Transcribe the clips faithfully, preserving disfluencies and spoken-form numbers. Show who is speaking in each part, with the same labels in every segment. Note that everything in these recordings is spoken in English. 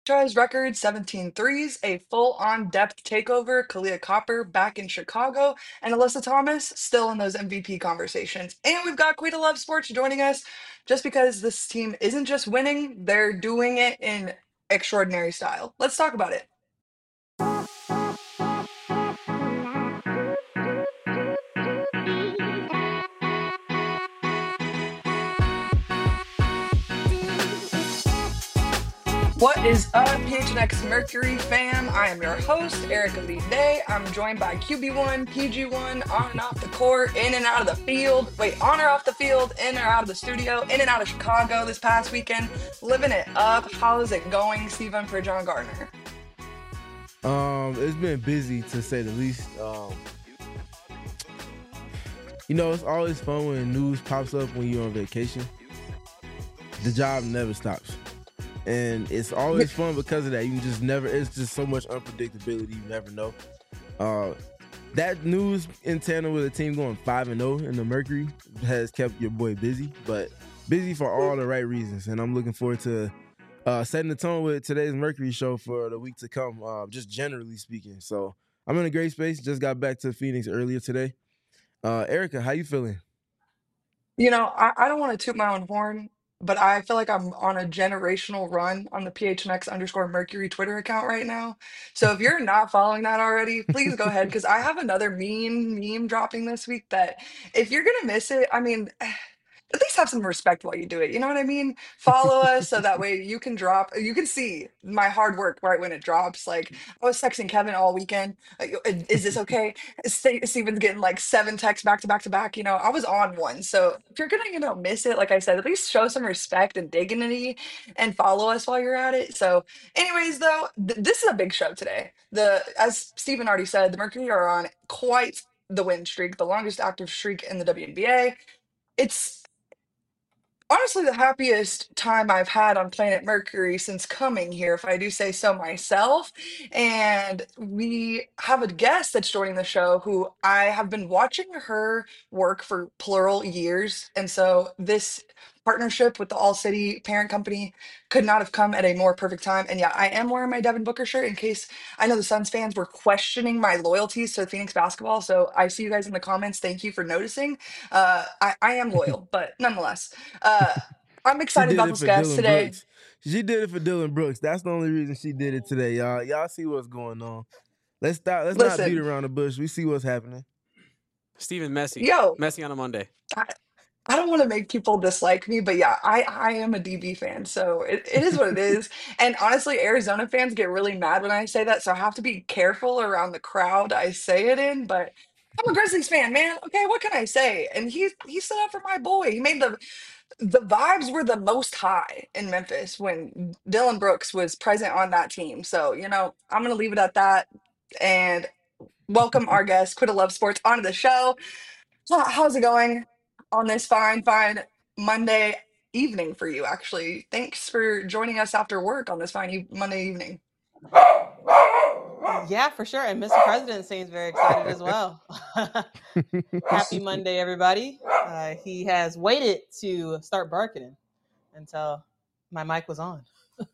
Speaker 1: franchise record seventeen threes, a full-on depth takeover, Kalia Copper back in Chicago, and Alyssa Thomas still in those M V P conversations. And we've got Queen of Love Sports joining us just because this team isn't just winning, they're doing it in extraordinary style. Let's talk about it. What is up, P H N X Mercury fam? I am your host, Erica Lee Day. I'm joined by Q B one, P G one, on and off the court, in and out of the field. Wait, on or off the field, in or out of the studio, in and out of Chicago this past weekend, living it up. How's it going, Stephen, for John Gardner?
Speaker 2: Um, it's been busy to say the least. Um, you know, it's always fun when news pops up when you're on vacation. The job never stops. And it's always fun because of that. You just never, it's just so much unpredictability. You never know. Uh, that news in tandem with a team going five and oh in the Mercury has kept your boy busy, but busy for all the right reasons. And I'm looking forward to uh, setting the tone with today's Mercury show for the week to come, uh, just generally speaking. So I'm in a great space. Just got back to Phoenix earlier today. Uh, Erica, how you feeling?
Speaker 1: You know, I, I don't want to toot my own horn, but I feel like I'm on a generational run on the P H N X underscore Mercury Twitter account right now. So if you're not following that already, please go ahead because I have another meme meme dropping this week that if you're gonna miss it, I mean, at least have some respect while you do it. You know what I mean? Follow us so that way you can drop, you can see my hard work right when it drops. Like I was texting Kevin all weekend. Like, is this okay? Ste- Steven's getting like seven texts back to back to back. You know, I was on one. So if you're gonna, you know, miss it, like I said, at least show some respect and dignity and follow us while you're at it. So, anyways, though, th- this is a big show today. The as Steven already said, the Mercury are on quite the win streak, the longest active streak in the W N B A. It's honestly the happiest time I've had on planet Mercury since coming here, if I do say so myself. And we have a guest that's joining the show who I have been watching her work for plural years. And so this partnership with the All City parent company could not have come at a more perfect time. And yeah, I am wearing my Devin Booker shirt in case I know the Suns fans were questioning my loyalties to Phoenix basketball. So I see you guys in the comments. Thank you for noticing. Uh, I, I am loyal, but nonetheless. Uh, I'm
Speaker 2: She
Speaker 1: excited
Speaker 2: did
Speaker 1: about
Speaker 2: it
Speaker 1: this
Speaker 2: for
Speaker 1: guest
Speaker 2: Dylan
Speaker 1: today.
Speaker 2: Brooks. She did it for Dylan Brooks. That's the only reason she did it today, y'all. Y'all see what's going on. Let's stop. Let's not beat
Speaker 1: Listen,
Speaker 2: around the bush. We see what's happening.
Speaker 3: Stephen Messy.
Speaker 1: yo,
Speaker 3: Messy on a Monday.
Speaker 1: I, I don't want to make people dislike me, but yeah, I, I am a D B fan, so it, it is what it is. And honestly, Arizona fans get really mad when I say that, so I have to be careful around the crowd I say it in. But I'm a Grizzlies fan, man. Okay, what can I say? And he he stood up for my boy. He made the the vibes were the most high in Memphis when Dylan Brooks was present on that team. So you know, I'm gonna leave it at that. And welcome our guest, Quitta Love Sports, onto the show. How- How's it going on this fine, fine Monday evening for you, actually? Thanks for joining us after work on this fine e- Monday evening.
Speaker 4: Yeah, for sure. And Mister President seems very excited as well. Happy Monday, everybody. Uh, he has waited to start barking until my mic was on.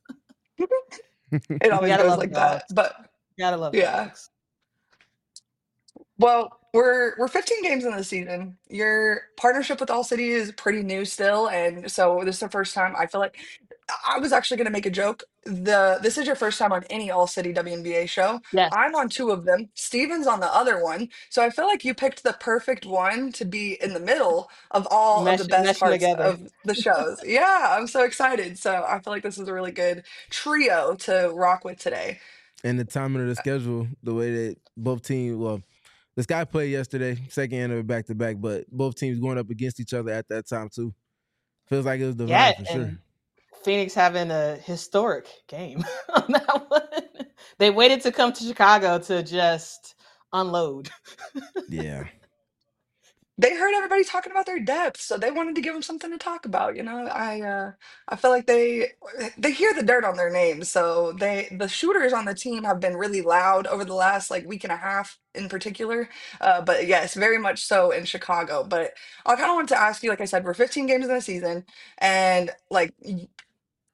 Speaker 1: It
Speaker 4: You
Speaker 1: always
Speaker 4: gotta
Speaker 1: goes
Speaker 4: love
Speaker 1: like that.
Speaker 4: dogs.
Speaker 1: But
Speaker 4: You gotta love
Speaker 1: yeah.
Speaker 4: dogs.
Speaker 1: Well, we're we're fifteen games in the season. Your partnership with All City is pretty new still, and so this is the first time I feel like I was actually going to make a joke. The this is your first time on any All City W N B A show.
Speaker 4: Yes.
Speaker 1: I'm on two of them. Steven's on the other one. So I feel like you picked the perfect one to be in the middle of all of the
Speaker 4: Mesh,
Speaker 1: best
Speaker 4: meshing
Speaker 1: parts
Speaker 4: together.
Speaker 1: of the shows. Yeah, I'm so excited. So I feel like this is a really good trio to rock with today.
Speaker 2: And the timing of the schedule, the way that both teams, well, the Sky played yesterday, second end of it back to back, but both teams going up against each other at that time too. Feels like it was divine
Speaker 4: Yeah,
Speaker 2: for sure.
Speaker 4: and Phoenix having a historic game on that one. They waited to come to Chicago to just unload.
Speaker 2: Yeah.
Speaker 1: They heard everybody talking about their depth, so they wanted to give them something to talk about. You know, I uh, I feel like they they hear the dirt on their names, so they the shooters on the team have been really loud over the last like week and a half in particular. Uh, but yes, very much so in Chicago. But I kind of wanted to ask you, like I said, we're fifteen games in the season, and like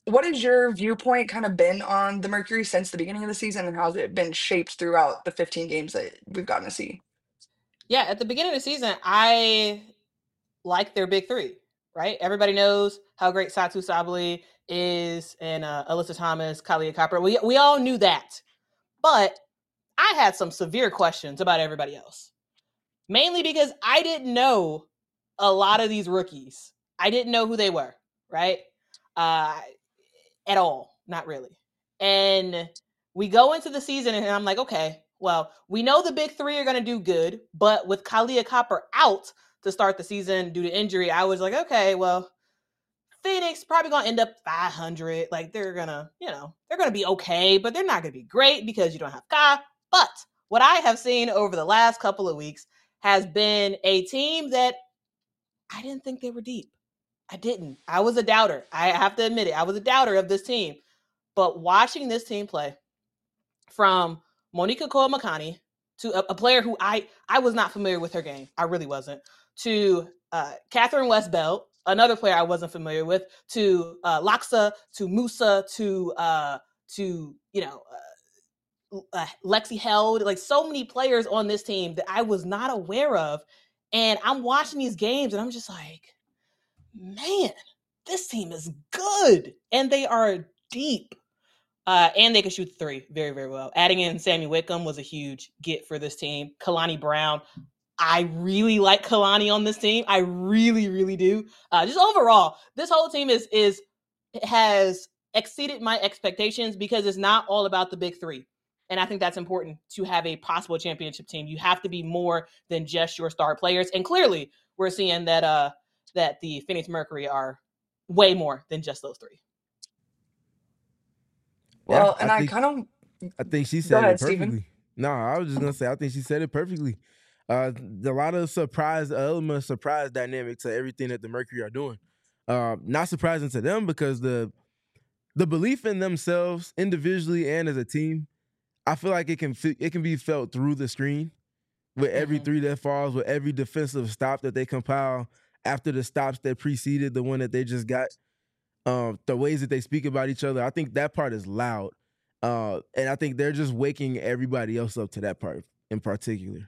Speaker 1: what has your viewpoint kind of been on the Mercury since the beginning of the season, and how's it been shaped throughout the fifteen games that we've gotten to see?
Speaker 4: Yeah, at the beginning of the season, I like their big three, right? Everybody knows how great Satu Sabali is and uh, Alyssa Thomas, Kalia Copper. We, we all knew that. But I had some severe questions about everybody else, mainly because I didn't know a lot of these rookies. I didn't know who they were, right? Uh, at all, not really. And we go into the season and I'm like, okay, well, we know the big three are going to do good, but with Kalia Copper out to start the season due to injury, I was like, okay, well, Phoenix probably going to end up five hundred. Like they're going to, you know, they're going to be okay, but they're not going to be great because you don't have Ka. But what I have seen over the last couple of weeks has been a team that I didn't think they were deep. I didn't. I was a doubter. I have to admit it. I was a doubter of this team. But watching this team play, from Monica Koamakani to a, a player who I I was not familiar with her game. I really wasn't. To uh, Catherine Westbelt, another player I wasn't familiar with. To uh, Laksa, to Musa, to uh, to you know uh, uh, Lexi Held. Like so many players on this team that I was not aware of, and I'm watching these games and I'm just like, man, this team is good and they are deep. Uh, and they can shoot the three very, very well. Adding in Sammy Wickham was a huge get for this team. Kalani Brown, I really like Kalani on this team. I really, really do. Uh, just overall, this whole team is is has exceeded my expectations because it's not all about the big three. And I think that's important to have a possible championship team. You have to be more than just your star players. And clearly, we're seeing that uh that the Phoenix Mercury are way more than just those three.
Speaker 1: Well,
Speaker 2: Yeah, I
Speaker 1: and I
Speaker 2: think
Speaker 1: kind of
Speaker 2: I think she
Speaker 1: go
Speaker 2: said it
Speaker 1: ahead, Steven.
Speaker 2: perfectly. No, I was just gonna say I think she said it perfectly. Uh, a lot of surprise element, surprise dynamic to everything that the Mercury are doing. Uh, not surprising to them because the the belief in themselves individually and as a team, I feel like it can it can be felt through the screen with every
Speaker 4: Mhm.
Speaker 2: three that falls, with every defensive stop that they compile after the stops that preceded the one that they just got. Um, the ways that they speak about each other, I think that part is loud. Uh, and I think they're just waking everybody else up to that part in particular.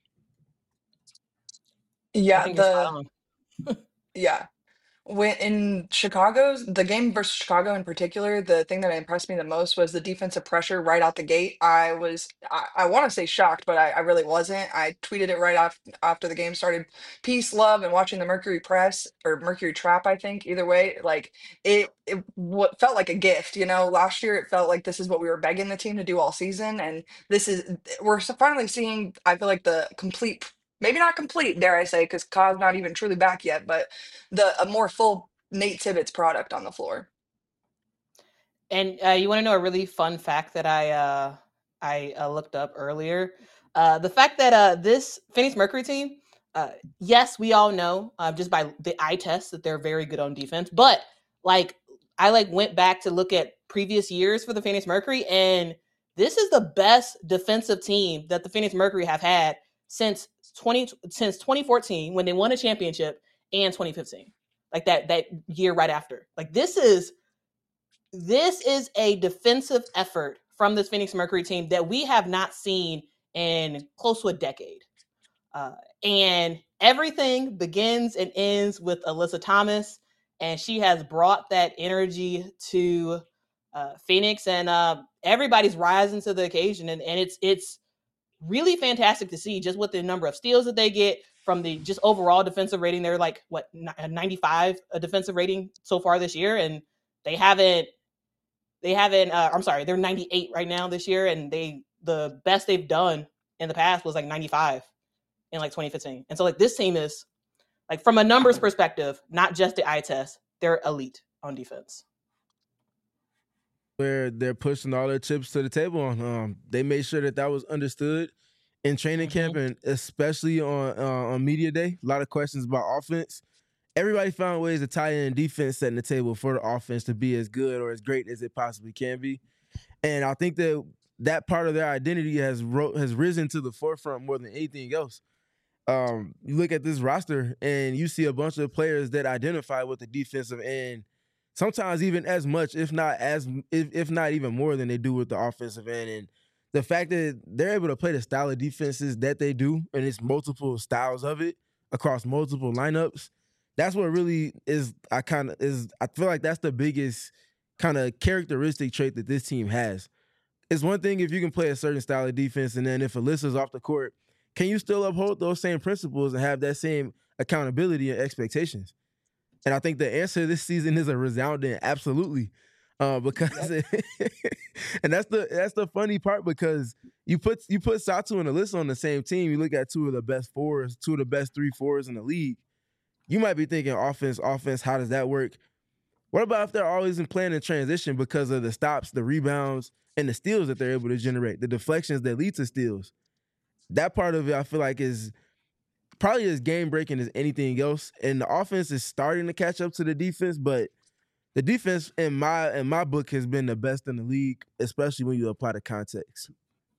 Speaker 4: I
Speaker 1: Yeah,
Speaker 4: think you're spot
Speaker 1: the
Speaker 4: on.
Speaker 1: yeah. When in Chicago's the game versus Chicago in particular, the thing that impressed me the most was the defensive pressure right out the gate. I was I, I want to say shocked, but I, I really wasn't. I tweeted it right off after the game started. Peace, love, and watching the Mercury press or Mercury trap. I think either way, like it it what felt like a gift. You know, last year it felt like this is what we were begging the team to do all season, and this is we're s- finally seeing. I feel like the complete. Maybe not complete, dare I say, because Ka's not even truly back yet, but the a more full Nate Tibbetts product on the floor.
Speaker 4: And uh, you want to know a really fun fact that I uh, I uh, looked up earlier? Uh, the fact that uh, this Phoenix Mercury team, uh, yes, we all know uh, just by the eye test that they're very good on defense. But like I like went back to look at previous years for the Phoenix Mercury, and this is the best defensive team that the Phoenix Mercury have had since twenty since twenty fourteen when they won a championship, and twenty fifteen, like that that year right after. Like this is this is a defensive effort from this Phoenix Mercury team that we have not seen in close to a decade. Uh, and everything begins and ends with Alyssa Thomas, and she has brought that energy to uh, Phoenix, and uh, everybody's rising to the occasion, and, and it's it's really fantastic to see just with the number of steals that they get from the just overall defensive rating. They're like what ninety-five a defensive rating so far this year, and they haven't they haven't. Uh, I'm sorry, they're ninety-eight right now this year, and they the best they've done in the past was like ninety-five in like twenty fifteen. And so like this team is like from a numbers perspective, not just the eye test, they're elite on defense.
Speaker 2: Where they're pushing all their chips to the table on. Um, they made sure that that was understood in training
Speaker 4: Mm-hmm.
Speaker 2: camp and especially on uh, on media day. A lot of questions about offense. Everybody found ways to tie in defense, setting the table for the offense to be as good or as great as it possibly can be. And I think that that part of their identity has ro- has risen to the forefront more than anything else. Um, you look at this roster and you see a bunch of players that identify with the defensive end sometimes even as much, if not as if, if not even more than they do with the offensive end. And the fact that they're able to play the style of defenses that they do, and it's multiple styles of it across multiple lineups, that's what really is, I kind of is, I feel like that's the biggest kind of characteristic trait that this team has. It's one thing if you can play a certain style of defense, and then if Alyssa's off the court, can you still uphold those same principles and have that same accountability and expectations? And I think the answer this season is a resounding absolutely. Uh, because
Speaker 4: Yep.
Speaker 2: and that's the that's the funny part, because you put you put Satou and Alyssa on the same team, you look at two of the best fours, two of the best three fours in the league. You might be thinking offense, offense, how does that work? What about if they're always in playing in transition because of the stops, the rebounds, and the steals that they're able to generate, the deflections that lead to steals? That part of it, I feel like, is probably as game-breaking as anything else. And the offense is starting to catch up to the defense, but the defense in my in my book has been the best in the league, especially when you apply the context.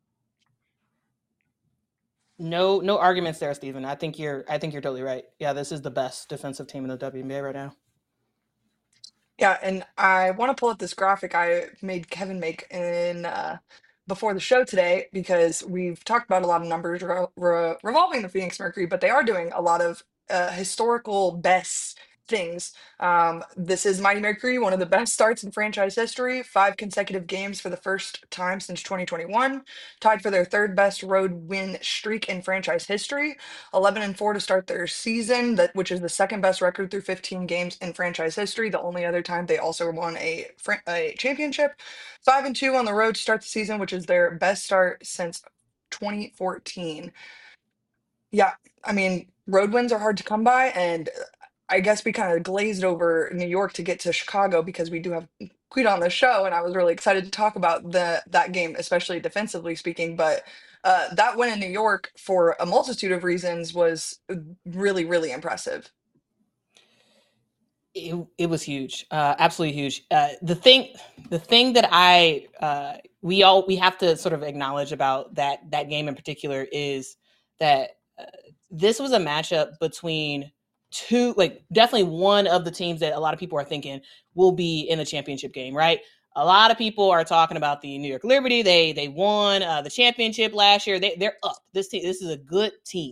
Speaker 4: No, no arguments there, Stephen. I think you're I think you're totally right. Yeah, this is the best defensive team in the W N B A right now.
Speaker 1: Yeah, and I want to pull up this graphic I made Kevin make in uh, before the show today, because we've talked about a lot of numbers re- re- revolving the Phoenix Mercury, but they are doing a lot of uh, historical best things. Um, this is Mighty Mercury, one of the best starts in franchise history, five consecutive games for the first time since twenty twenty-one, tied for their third best road win streak in franchise history, eleven and four to start their season, that which is the second best record through fifteen games in franchise history. The only other time they also won a fran- a championship. five and two on the road to start the season, which is their best start since twenty fourteen. Yeah, I mean, road wins are hard to come by, and uh, I guess we kind of glazed over New York to get to Chicago because we do have Queen on the show, and I was really excited to talk about the that game, especially defensively speaking. But uh, that win in New York, for a multitude of reasons, was uh, really, really impressive.
Speaker 4: It, it was huge, uh, absolutely huge. Uh, the thing, the thing that I uh, we all we have to sort of acknowledge about that that game in particular is that uh, this was a matchup between two, like definitely one of the teams that a lot of people are thinking will be in the championship game, right? A lot of people are talking about the New York Liberty. They they won uh, the championship last year. They they're up. This team, this is a good team,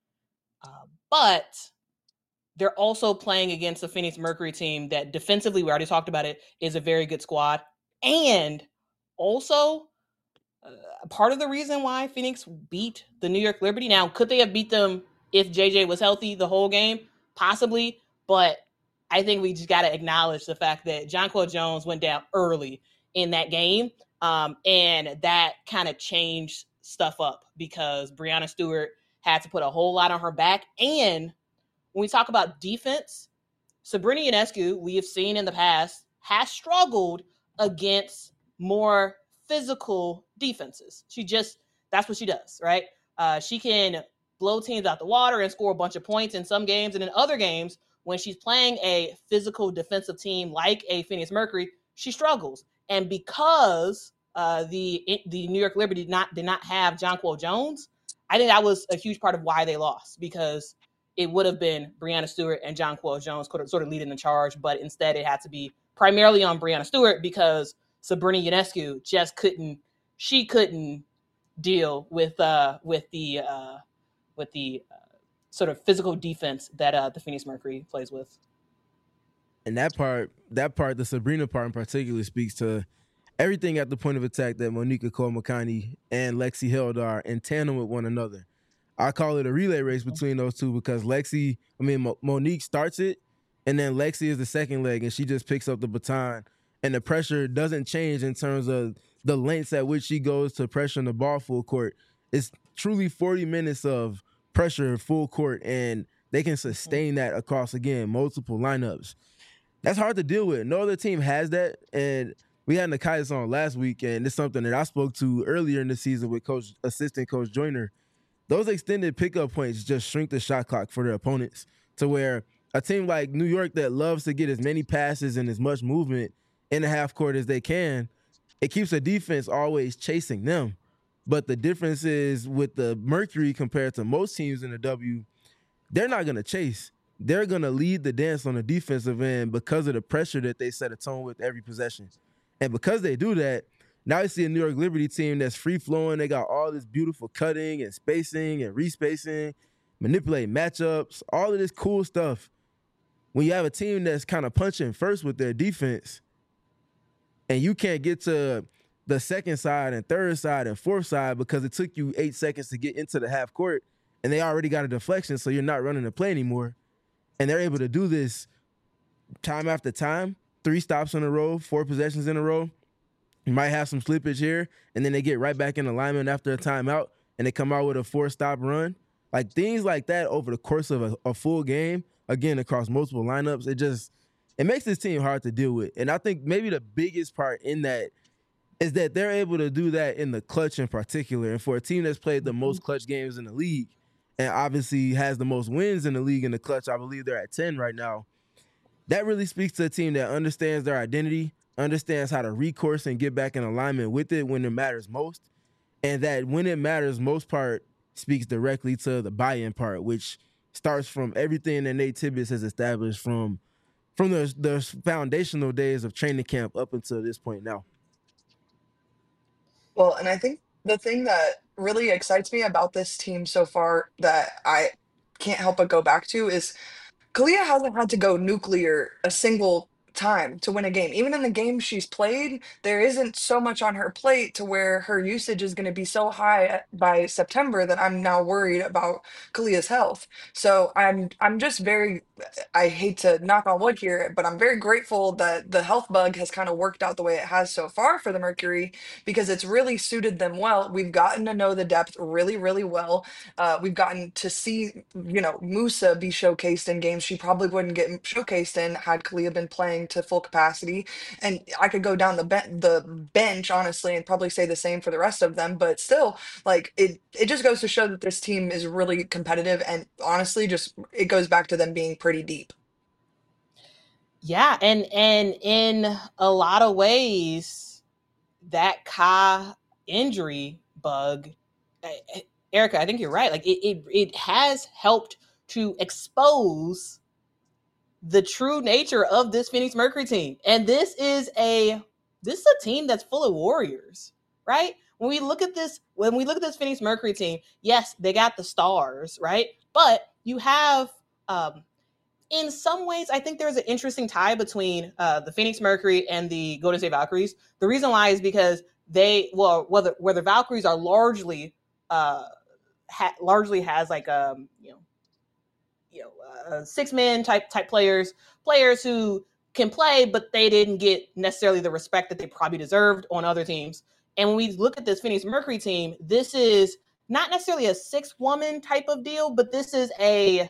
Speaker 4: uh, but they're also playing against the Phoenix Mercury team that defensively, we already talked about it, is a very good squad. And also, uh, part of the reason why Phoenix beat the New York Liberty. Now, could they have beat them if J J was healthy the whole game? Possibly. But I think we just got to acknowledge the fact that Jonquel Jones went down early in that game. Um, and that kind of changed stuff up because Breanna Stewart had to put a whole lot on her back. And when we talk about defense, Sabrina Ionescu, we have seen in the past, has struggled against more physical defenses. She just, that's what she does, right? Uh, she can blow teams out the water and score a bunch of points in some games. And in other games, when she's playing a physical defensive team like a Phoenix Mercury, she struggles. And because uh, the the New York Liberty did not, did not have Jonquel Jones, I think that was a huge part of why they lost, because it would have been Breanna Stewart and Jonquel Jones could have sort of leading the charge, but instead it had to be primarily on Breanna Stewart because Sabrina Ionescu just couldn't, she couldn't deal with uh, with the uh, with the uh, sort of physical defense that uh, the Phoenix Mercury plays with.
Speaker 2: And that part, that part, the Sabrina part in particular, speaks to everything at the point of attack that Monica Cole-Makani and Lexi Held are in tandem with one another. I call it a relay race between those two because Lexi, I mean, Mo- Monique starts it, and then Lexi is the second leg, and she just picks up the baton. And the pressure doesn't change in terms of the lengths at which she goes to pressure the ball full court. It's truly forty minutes of pressure full court, and they can sustain that across, again, multiple lineups. That's hard to deal with. No other team has that, and we had Nekias on last week, and it's something that I spoke to earlier in the season with Coach, assistant Coach Joyner. Those extended pickup points just shrink the shot clock for their opponents to where a team like New York that loves to get as many passes and as much movement in the half court as they can, it keeps the defense always chasing them. But the difference is with the Mercury compared to most teams in the W, they're not going to chase. they're going to lead the dance on the defensive end because of the pressure that they set a tone with every possession. And because they do that, now you see a New York Liberty team that's free-flowing. They got all this beautiful cutting and spacing and respacing, manipulating matchups, all of this cool stuff. When you have a team that's kind of punching first with their defense and you can't get to the second side and third side and fourth side because it took you eight seconds to get into the half court and they already got a deflection, so you're not running the play anymore. And they're able to do this time after time, three stops in a row, four possessions in a row. You might have some slippage here, and then they get right back in alignment after a timeout, and they come out with a four-stop run. Like, things like that over the course of a, a full game, again, across multiple lineups, it just it makes this team hard to deal with. And I think maybe the biggest part in that is that they're able to do that in the clutch in particular. And for a team that's played the most clutch games in the league and obviously has the most wins in the league in the clutch, I believe they're at ten right now, that really speaks to a team that understands their identity, understands how to recourse and get back in alignment with it when it matters most, and that when it matters most part speaks directly to the buy-in part, which starts from everything that Nate Tibbetts has established from from the, the foundational days of training camp up until this point now.
Speaker 1: Well, and I think the thing that really excites me about this team so far that I can't help but go back to is Kalia hasn't had to go nuclear a single time to win a game. Even in the games she's played, there isn't so much on her plate to where her usage is going to be so high at- by September that I'm now worried about Kalia's health. So I'm I'm just very I hate to knock on wood here, but I'm very grateful that the health bug has kind of worked out the way it has so far for the Mercury because it's really suited them well. We've gotten to know the depth really, really well. Uh, we've gotten to see, you know, Musa be showcased in games she probably wouldn't get showcased in had Kalia been playing to full capacity. And I could go down the ben- the bench honestly and probably say the same for the rest of them. But still, like it, it just goes to show that this team is really competitive. And honestly, just it goes back to them being pretty deep.
Speaker 4: Yeah, and and in a lot of ways, that Ka injury bug, I- I- Erica, I think you're right. Like it, it, it has helped to expose the true nature of this Phoenix Mercury team, and this is a this is a team that's full of warriors, right? When we look at this, when we look at this Phoenix Mercury team, yes, they got the stars, right? But you have, um, in some ways, I think there's an interesting tie between uh, the Phoenix Mercury and the Golden State Valkyries. The reason why is because they, well, whether where the Valkyries are largely, uh, ha- largely has like um, you know, you know, uh, six man type type players, players who can play, but they didn't get necessarily the respect that they probably deserved on other teams. And when we look at this Phoenix Mercury team, this is not necessarily a six woman type of deal, but this is a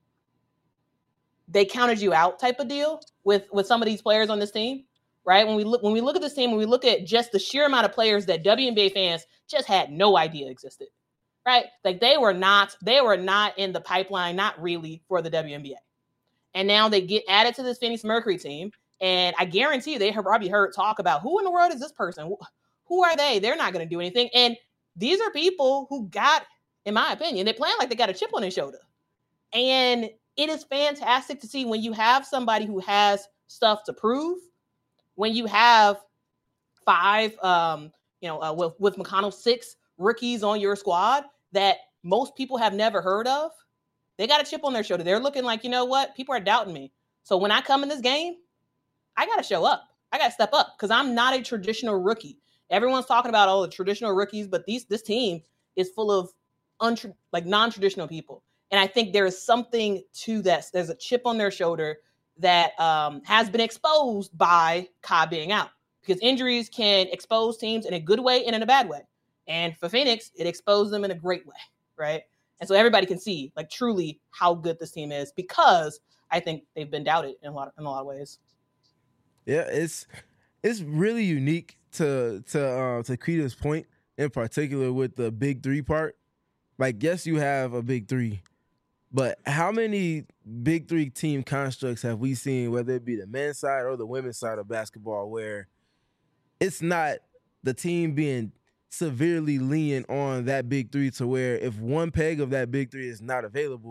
Speaker 4: they counted you out type of deal with with some of these players on this team, right? When we look when we look at this team, when we look at just the sheer amount of players that W N B A fans just had no idea existed, right? Like they were not they were not in the pipeline, not really for the W N B A, and now they get added to this Phoenix Mercury team, and I guarantee you they have probably heard talk about who in the world is this person? Who, who are they? They're not going to do anything, and these are people who got, in my opinion, they playing like they got a chip on their shoulder, and it is fantastic to see when you have somebody who has stuff to prove, when you have five, um, you know, uh, with, with McConnell, six rookies on your squad that most people have never heard of. They got a chip on their shoulder. They're looking like, you know what? People are doubting me. So when I come in this game, I got to show up. I got to step up because I'm not a traditional rookie. Everyone's talking about all the traditional rookies, but these this team is full of untra- like non-traditional people. And I think there is something to that. There's a chip on their shoulder that um, has been exposed by Ka being out, because injuries can expose teams in a good way and in a bad way. And for Phoenix, it exposed them in a great way, right? And so everybody can see, like, truly how good this team is, because I think they've been doubted in a lot of, in a lot of ways.
Speaker 2: Yeah, it's it's really unique to to uh, to Keita's point in particular with the big three part. Like, yes, you have a big three, but how many big three team constructs have we seen, whether it be the men's side or the women's side of basketball, where it's not the team being severely leaning on that big three to where if one peg of that big three is not available,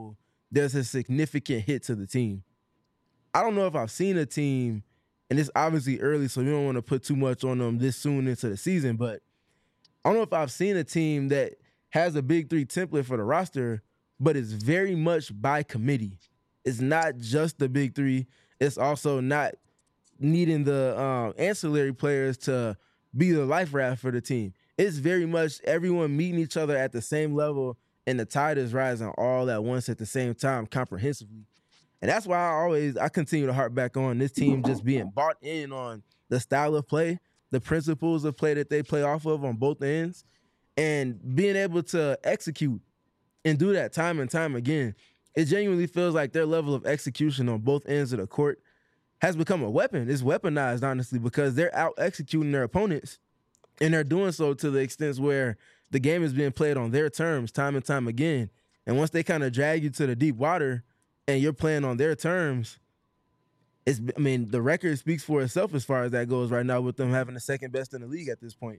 Speaker 2: there's a significant hit to the team. I don't know if I've seen a team, and it's obviously early, so we don't want to put too much on them this soon into the season, but I don't know if I've seen a team that has a big three template for the roster, but it's very much by committee. It's not just the big three. It's also not needing the um, ancillary players to be the life raft for the team. It's very much everyone meeting each other at the same level, and the tide is rising all at once at the same time comprehensively. And that's why I always, I continue to harp back on this team just being bought in on the style of play, the principles of play that they play off of on both ends, and being able to execute and do that time and time again. It genuinely feels like their level of execution on both ends of the court has become a weapon. It's weaponized, honestly, because they're out executing their opponents, and they're doing so to the extent where the game is being played on their terms time and time again. And once they kind of drag you to the deep water and you're playing on their terms, it's, I mean, the record speaks for itself as far as that goes right now, with them having the second best in the league at this point.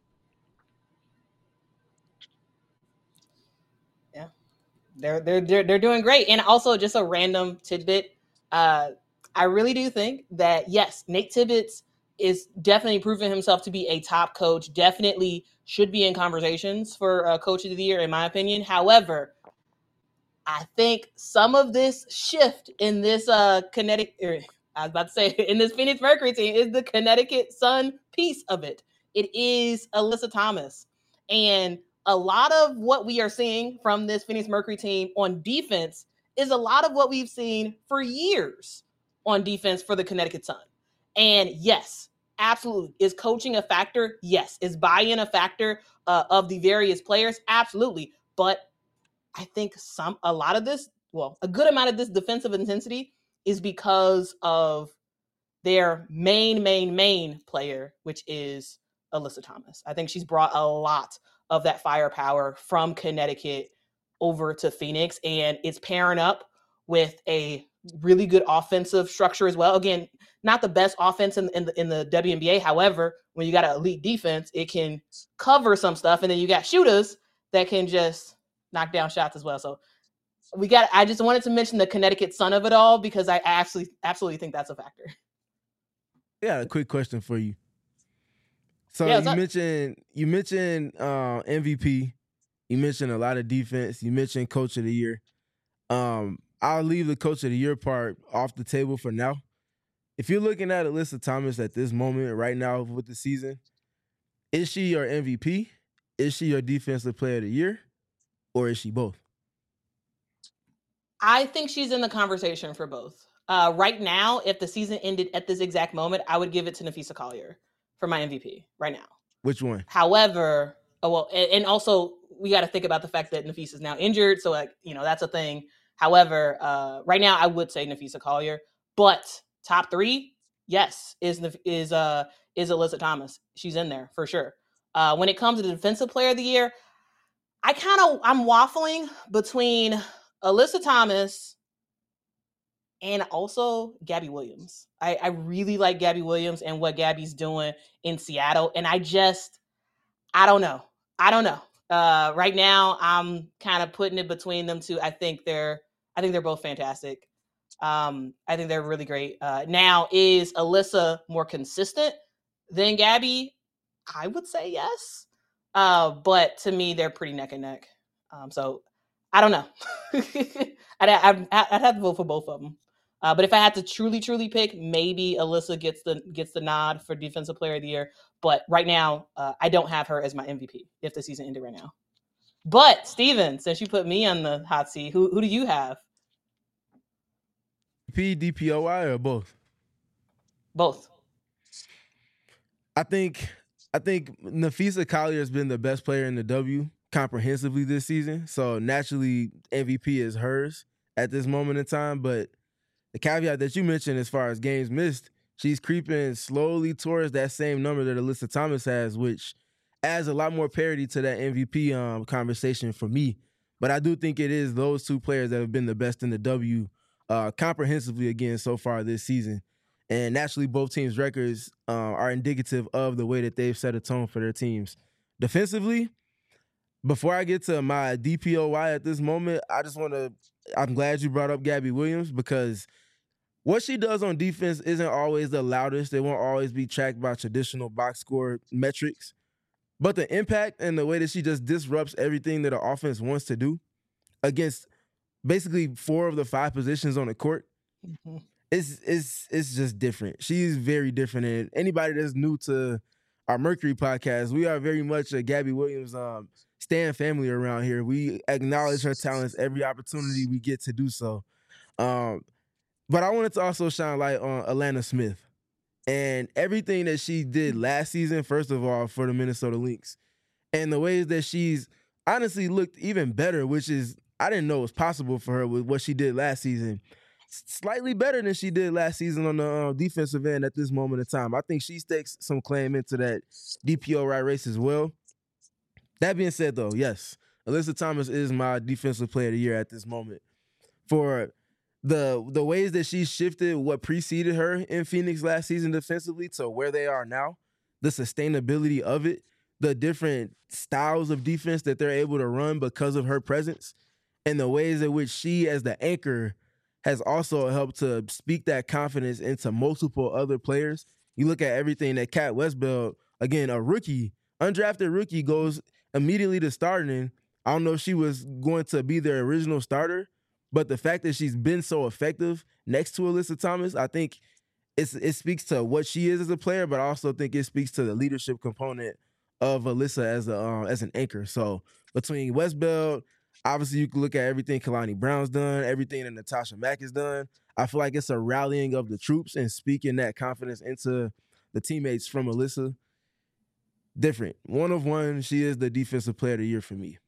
Speaker 4: Yeah, they're they're they're, they're doing great. And also, just a random tidbit, uh, I really do think that, yes, Nate Tibbetts is definitely proving himself to be a top coach, definitely should be in conversations for uh, Coach of the Year, in my opinion. However, I think some of this shift in this uh, Connecticut, I was about to say, in this Phoenix Mercury team is the Connecticut Sun piece of it. It is Alyssa Thomas. And a lot of what we are seeing from this Phoenix Mercury team on defense is a lot of what we've seen for years on defense for the Connecticut Sun. And yes, absolutely. Is coaching a factor? Yes. Is buy-in a factor uh, of the various players? Absolutely. But I think some, a lot of this, well, a good amount of this defensive intensity is because of their main, main, main player, which is Alyssa Thomas. I think she's brought a lot of that firepower from Connecticut over to Phoenix, and it's pairing up with a really good offensive structure as well. Again, not the best offense in, in, the, in the W N B A. However, when you got an elite defense, it can cover some stuff, and then you got shooters that can just knock down shots as well. So we got, I just wanted to mention the Connecticut Sun of it all, because I actually absolutely think that's a factor.
Speaker 2: Yeah, a quick question for you. So
Speaker 4: yeah,
Speaker 2: you
Speaker 4: up?
Speaker 2: mentioned you mentioned uh, M V P. You mentioned a lot of defense. You mentioned Coach of the Year. Um, I'll leave the Coach of the Year part off the table for now. If you're looking at Alyssa Thomas at this moment right now with the season, is she your M V P? Is she your Defensive Player of the Year? Or is she both?
Speaker 4: I think she's in the conversation for both. Uh, right now, if the season ended at this exact moment, I would give it to Napheesa Collier for my M V P right now.
Speaker 2: Which one?
Speaker 4: However, oh, well, and, and also we got to think about the fact that Napheesa is now injured. So, like, you know, that's a thing. However, uh, right now I would say Napheesa Collier, but top three, yes, is is uh is Alyssa Thomas. She's in there for sure. Uh, when it comes to the Defensive Player of the Year, I kind of, I'm waffling between Alyssa Thomas and also Gabby Williams. I, I really like Gabby Williams and what Gabby's doing in Seattle. And I just, I don't know. I don't know. Uh, right now, I'm kind of putting it between them two. I think they're, I think they're both fantastic. Um, I think they're really great. Uh, now, is Alyssa more consistent than Gabby? I would say yes. Uh, but to me, they're pretty neck and neck. Um, so I don't know. I'd, I'd, I'd have to vote for both of them. Uh, but if I had to truly, truly pick, maybe Alyssa gets the gets the nod for Defensive Player of the Year. But right now, uh, I don't have her as my M V P if the season ended right now. But Steven, since you put me on the hot seat, who who do you have?
Speaker 2: P, D P O I, or both?
Speaker 4: Both.
Speaker 2: I think I think Napheesa Collier has been the best player in the W comprehensively this season. So naturally, M V P is hers at this moment in time. But the caveat that you mentioned as far as games missed, she's creeping slowly towards that same number that Alyssa Thomas has, which adds a lot more parity to that M V P um, conversation for me. But I do think it is those two players that have been the best in the W uh, comprehensively again so far this season. And naturally, both teams' records uh, are indicative of the way that they've set a tone for their teams. Defensively, before I get to my D P O Y at this moment, I just want to I'm glad you brought up Gabby Williams because what she does on defense isn't always the loudest. It won't always be tracked by traditional box score metrics. But the impact and the way that she just disrupts everything that the offense wants to do against basically four of the five positions on the court, mm-hmm. it's, it's, it's just different. She's very different. And anybody that's new to our Mercury podcast, we are very much a Gabby Williams um, stan family around here. We acknowledge her talents every opportunity we get to do so. Um, but I wanted to also shine light on Alana Smith. And everything that she did last season, first of all, for the Minnesota Lynx, and the ways that she's honestly looked even better, which is, I didn't know was possible for her with what she did last season. Slightly better than she did last season on the uh, defensive end at this moment in time. I think she stakes some claim into that D P O right race as well. That being said, though, yes, Alyssa Thomas is my defensive player of the year at this moment. For The the ways that she shifted what preceded her in Phoenix last season defensively to where they are now, the sustainability of it, the different styles of defense that they're able to run because of her presence, and the ways in which she, as the anchor, has also helped to speak that confidence into multiple other players. You look at everything that Kat Westbeld, again, a rookie, undrafted rookie, goes immediately to starting. I don't know if she was going to be their original starter, but the fact that she's been so effective next to Alyssa Thomas, I think it's, it speaks to what she is as a player, but I also think it speaks to the leadership component of Alyssa as a uh, as an anchor. So between Westbeld, obviously you can look at everything Kalani Brown's done, everything that Natasha Mack has done. I feel like it's a rallying of the troops and speaking that confidence into the teammates from Alyssa. Different. One of one, she is the defensive player of the year for me.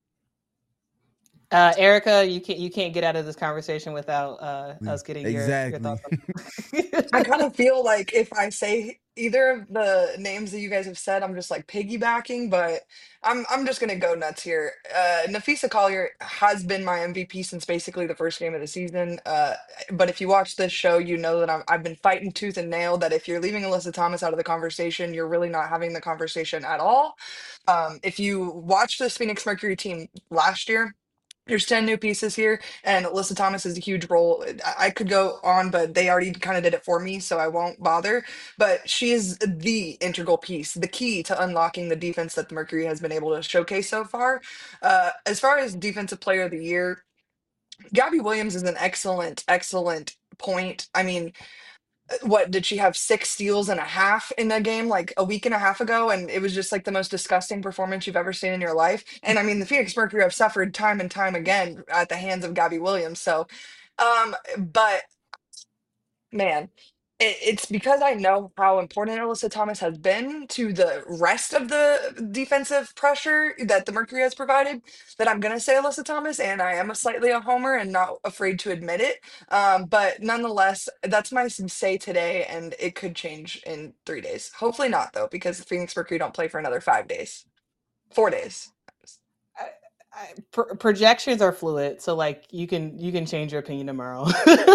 Speaker 4: Uh, Erica, you can't you can't get out of this conversation without uh, us getting
Speaker 2: exactly.
Speaker 4: your, your
Speaker 1: thoughts. I kind of feel like if I say either of the names that you guys have said, I'm just like piggybacking, but I'm I'm just gonna go nuts here. Uh, Nafisa Collier has been my M V P since basically the first game of the season. Uh, but if you watch this show, you know that I'm, I've been fighting tooth and nail that if you're leaving Alyssa Thomas out of the conversation, you're really not having the conversation at all. Um, if you watch this Phoenix Mercury team last year, there's ten new pieces here, and Alyssa Thomas is a huge role. I I could go on, but they already kind of did it for me, so I won't bother. But she is the integral piece, the key to unlocking the defense that the Mercury has been able to showcase so far. Uh, as far as Defensive Player of the Year, Gabby Williams is an excellent, excellent point. I mean, what did she have six steals and a half in a game like a week and a half ago, and it was just like the most disgusting performance you've ever seen in your life. And I mean, the Phoenix Mercury have suffered time and time again at the hands of Gabby Williams. So um but man, it, it's because I know how important Alyssa Thomas has been to the rest of the defensive pressure that the Mercury has provided that I'm going to say Alyssa Thomas, and I am a slightly a homer and not afraid to admit it. Um, but nonetheless, that's my say today, and it could change in three days. Hopefully not, though, because the Phoenix Mercury don't play for another five days, four days.
Speaker 4: I, I, pro- projections are fluid, so like you can you can change your opinion tomorrow.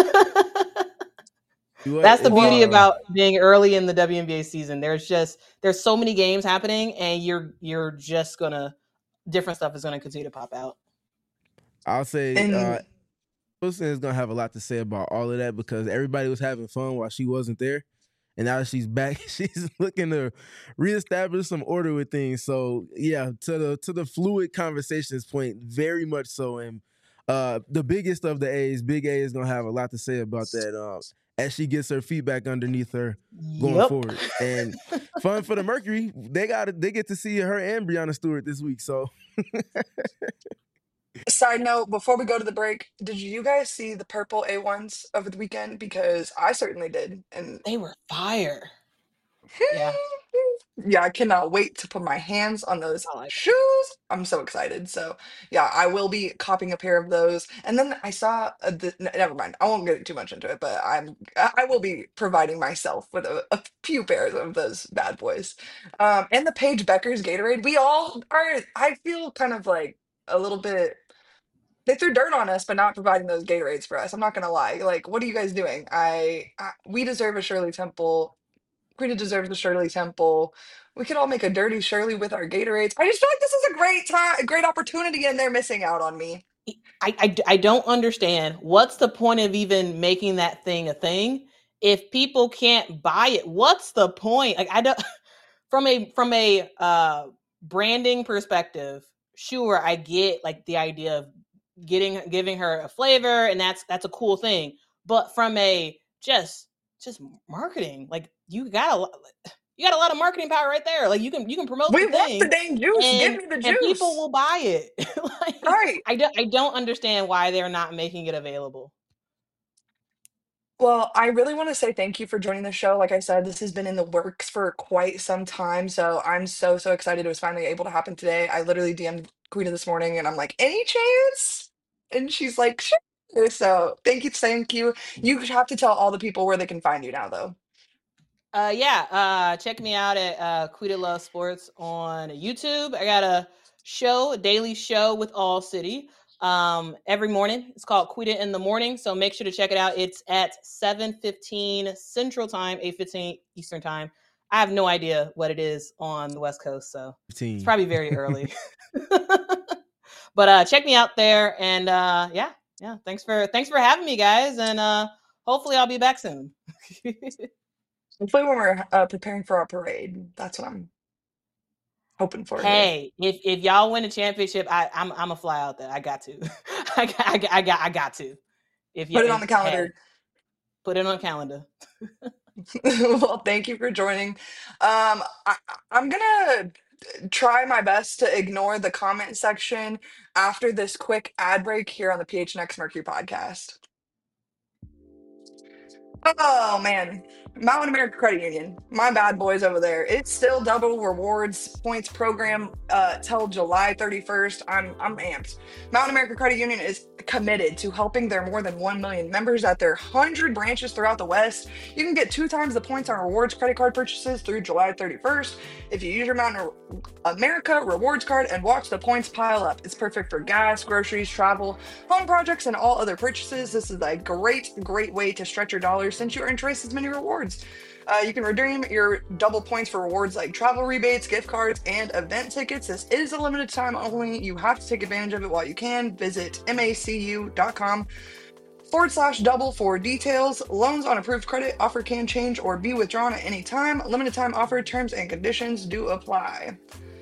Speaker 4: That's the beauty
Speaker 2: uh,
Speaker 4: about being early in the W N B A season. There's just there's so many games happening, and you're you're just gonna different stuff is gonna continue to pop out.
Speaker 2: I'll say
Speaker 1: And
Speaker 2: uh, Wilson is gonna have a lot to say about all of that because everybody was having fun while she wasn't there, and now that she's back, she's looking to reestablish some order with things. So yeah, to the to the fluid conversations point, very much so. And uh, the biggest of the A's, Big A, is gonna have a lot to say about that. Uh, as she gets her feet back underneath her going
Speaker 4: Yep.
Speaker 2: forward. And fun for the Mercury, they got they get to see her and Breanna Stewart this week. So
Speaker 1: side note, before we go to the break, did you guys see the purple A ones over the weekend? Because I certainly did. And
Speaker 4: they were fire. Yeah.
Speaker 1: Yeah, I cannot wait to put my hands on those like shoes. I'm so excited. So, yeah, I will be copping a pair of those. And then I saw, a, the, n- never mind, I won't get too much into it, but I'm I I will be providing myself with a, a few pairs of those bad boys. Um, and the Paige Becker's Gatorade. We all are. I feel kind of like a little bit. They threw dirt on us, but not providing those Gatorades for us. I'm not gonna lie. Like, what are you guys doing? I, I we deserve a Shirley Temple. Rita deserves the Shirley Temple. We could all make a dirty Shirley with our Gatorades. I just feel like this is a great time, a great opportunity, and they're missing out on me.
Speaker 4: I, I, I don't understand what's the point of even making that thing a thing if people can't buy it. What's the point? Like I don't from a from a uh branding perspective, sure, I get like the idea of getting giving her a flavor, and that's that's a cool thing. But from a just just marketing, like you got a you got a lot of marketing power right there. Like you can you can promote
Speaker 1: We
Speaker 4: the
Speaker 1: want the
Speaker 4: thing,
Speaker 1: dang juice. Give
Speaker 4: and
Speaker 1: me the
Speaker 4: and people
Speaker 1: juice.
Speaker 4: will buy it. Like
Speaker 1: Right.
Speaker 4: I don't I don't understand why they're not making it available.
Speaker 1: Well, I really want to say thank you for joining the show. Like I said, this has been in the works for quite some time. So I'm so, so excited it was finally able to happen today. I literally D M'd Quita this morning and I'm like, any chance? And she's like, sure. So thank you, thank you. You have to tell all the people where they can find you now, though.
Speaker 4: Uh, yeah, uh, check me out at uh, Quita Love Sports on YouTube. I got a show, a daily show with All City um, every morning. It's called Quita in the Morning, so make sure to check it out. It's at seven fifteen Central Time, eight fifteen Eastern Time. I have no idea what it is on the West Coast, so it's probably very early. But uh, check me out there, and uh, yeah, yeah. Thanks for thanks for having me, guys, and uh, hopefully I'll be back soon.
Speaker 1: Hopefully, when we're uh, preparing for our parade, that's what I'm hoping for here.
Speaker 4: Hey, if if y'all win a championship, I I'm I'm a fly out there. I got to. I got I got I got I got to. If you
Speaker 1: Put it on
Speaker 4: if
Speaker 1: the
Speaker 4: hey,
Speaker 1: calendar.
Speaker 4: put it on the calendar.
Speaker 1: Well, thank you for joining. Um, I, I'm gonna try my best to ignore the comment section after this quick ad break here on the P H N X Mercury podcast. Oh man, Mountain America Credit Union, my bad boys over there. It's still double rewards points program uh, till July thirty-first. I'm I'm amped. Mountain America Credit Union is committed to helping their more than one million members at their one hundred branches throughout the West. You can get two times the points on rewards credit card purchases through July thirty-first if you use your Mountain America rewards card and watch the points pile up. It's perfect for gas, groceries, travel, home projects, and all other purchases. This is a great, great way to stretch your dollars since you earn twice as many rewards. Uh, you can redeem your double points for rewards like travel rebates, gift cards, and event tickets. This is a limited time only. You have to take advantage of it while you can. Visit macu.com forward slash double for details. Loans on approved credit offer can change or be withdrawn at any time. Limited time offer terms and conditions do apply.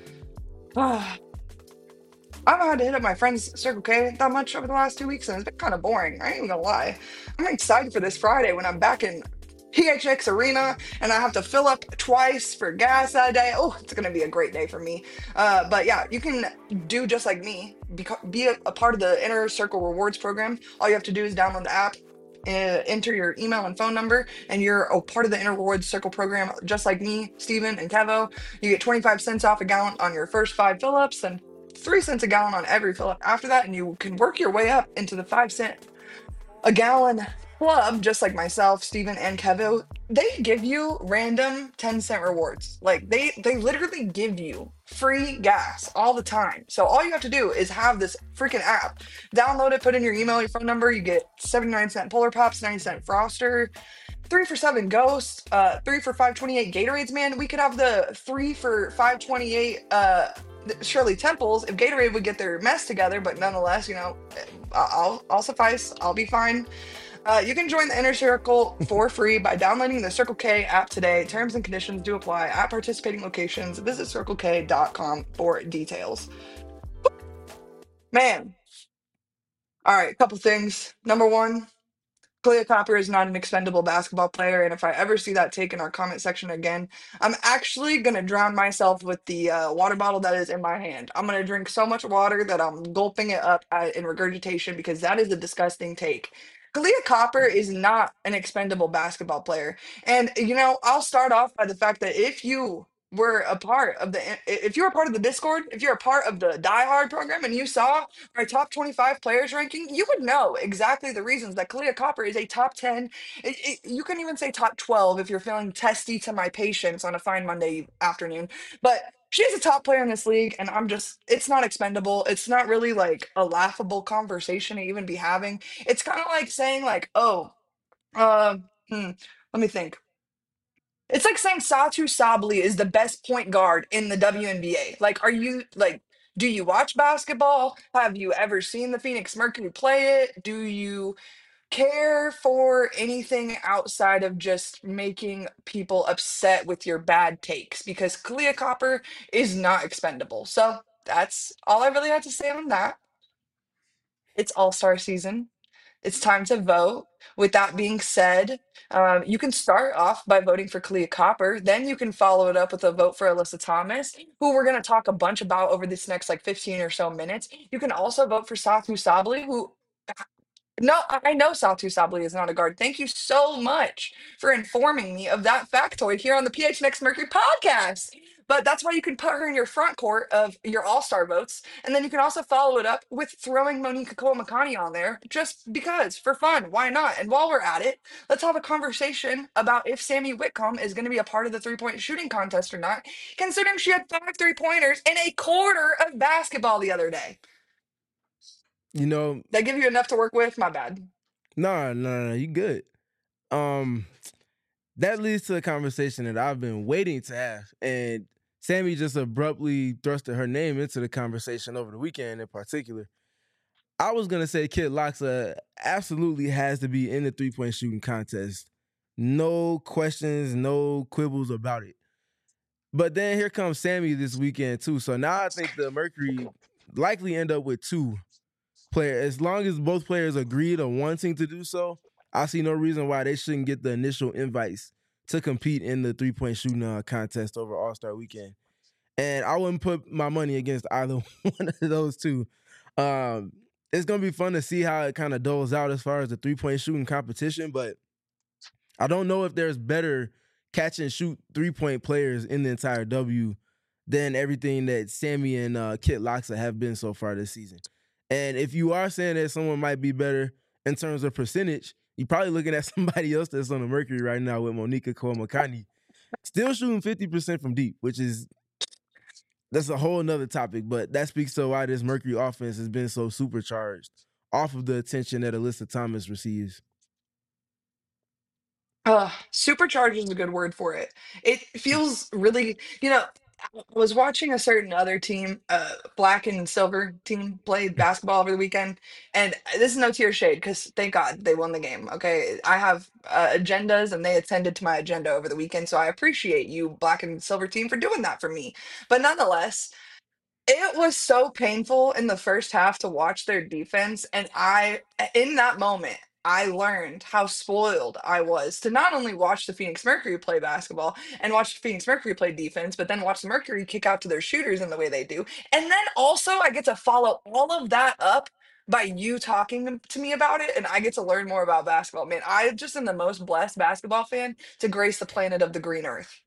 Speaker 1: Ah. I haven't had to hit up my friend's Circle K that much over the last two weeks, and it's been kind of boring. I ain't even gonna lie. I'm excited for this Friday when I'm back in P H X Arena and I have to fill up twice for gas that day. Oh, it's gonna be a great day for me. Uh, but yeah, you can do just like me, beco- be a, a part of the Inner Circle Rewards program. All you have to do is download the app, uh, enter your email and phone number, and you're a part of the Inner Rewards Circle program, just like me, Steven, and Kevo. You get twenty-five cents off a gallon on your first five fill-ups, and three cents a gallon on every fill up after that, and you can work your way up into the five cent a gallon club, just like myself, Steven, and Kevo. They give you random ten cent rewards. Like they they literally give you free gas all the time. So all you have to do is have this freaking app. Download it, put in your email, your phone number, you get seventy-nine cent Polar Pops, ninety cent Froster, three for seven Ghosts, uh, three for five twenty-eight Gatorades, man. We could have the three for five twenty-eight uh Shirley Temples if Gatorade would get their mess together, but nonetheless, you know, I'll I'll suffice. I'll be fine. Uh, you can join the Inner Circle for free by downloading the Circle K app today. Terms and conditions do apply at participating locations. Visit circle k dot com for details. Man. All right, couple things. Number one, Kalia Copper is not an expendable basketball player, and if I ever see that take in our comment section again, I'm actually gonna drown myself with the uh, water bottle that is in my hand. I'm gonna drink so much water that I'm gulping it up at, in regurgitation because that is a disgusting take. Kalia Copper is not an expendable basketball player, and you know I'll start off by the fact that if you were a part of the if you're a part of the Discord, if you're a part of the Die Hard program, and you saw our top twenty-five players ranking, you would know exactly the reasons that Kalia Copper is a top ten. It, it, you can even say top twelve if you're feeling testy to my patience on a fine Monday afternoon. But she's a top player in this league, and I'm just, it's not expendable. It's not really like a laughable conversation to even be having. It's kind of like saying, like, oh, uh, hmm, let me think. It's like saying Satu Sabli is the best point guard in the W N B A. Like, are you like Do you watch basketball? Have you ever seen the Phoenix Mercury play it? Do you care for anything outside of just making people upset with your bad takes? Because Kalia Copper is not expendable. So that's all I really had to say on that. It's All Star season. It's time to vote. With that being said, um, you can start off by voting for Kalia Copper. Then you can follow it up with a vote for Alyssa Thomas, who we're going to talk a bunch about over this next like fifteen or so minutes. You can also vote for Satu Sabli, who no, I I know Satu Sabli is not a guard. Thank you so much for informing me of that factoid here on the P H N X Mercury podcast. But that's why you can put her in your front court of your all star votes. And then you can also follow it up with throwing Monique Makani on there just because, for fun. Why not? And while we're at it, let's have a conversation about if Sammy Whitcomb is going to be a part of the three point shooting contest or not, considering she had five three pointers in a quarter of basketball the other day.
Speaker 2: You know,
Speaker 1: That give you enough to work with? My bad.
Speaker 2: no, no, no, you good. Um, that leads to a conversation that I've been waiting to have, and Sammy just abruptly thrusted her name into the conversation over the weekend in particular. I was gonna say Kid Loxa absolutely has to be in the three point shooting contest. No questions, no quibbles about it. But then here comes Sammy this weekend too. So now I think the Mercury likely end up with two players. As long as both players agreed on wanting to do so, I see no reason why they shouldn't get the initial invites to compete in the three point shooting uh, contest over All Star Weekend. And I wouldn't put my money against either one of those two. Um, it's gonna be fun to see how it kind of doles out as far as the three point shooting competition, but I don't know if there's better catch and shoot three point players in the entire W than everything that Sammy and uh, Kit Loxa have been so far this season. And if you are saying that someone might be better in terms of percentage, you're probably looking at somebody else that's on the Mercury right now with Monica Komakani, still shooting fifty percent from deep, which is that's a whole nother topic, but that speaks to why this Mercury offense has been so supercharged off of the attention that Alyssa Thomas receives.
Speaker 1: Uh, supercharged is a good word for it. It feels really, you know, I was watching a certain other team, uh, black and silver team play basketball over the weekend, and this is no tear shade because thank God they won the game. Okay, I have uh, agendas and they attended to my agenda over the weekend, so I appreciate you, black and silver team, for doing that for me. But nonetheless, it was so painful in the first half to watch their defense, and I in that moment, I learned how spoiled I was to not only watch the Phoenix Mercury play basketball and watch the Phoenix Mercury play defense, but then watch the Mercury kick out to their shooters in the way they do. And then also I get to follow all of that up by you talking to me about it, and I get to learn more about basketball. Man, I just am the most blessed basketball fan to grace the planet of the green earth.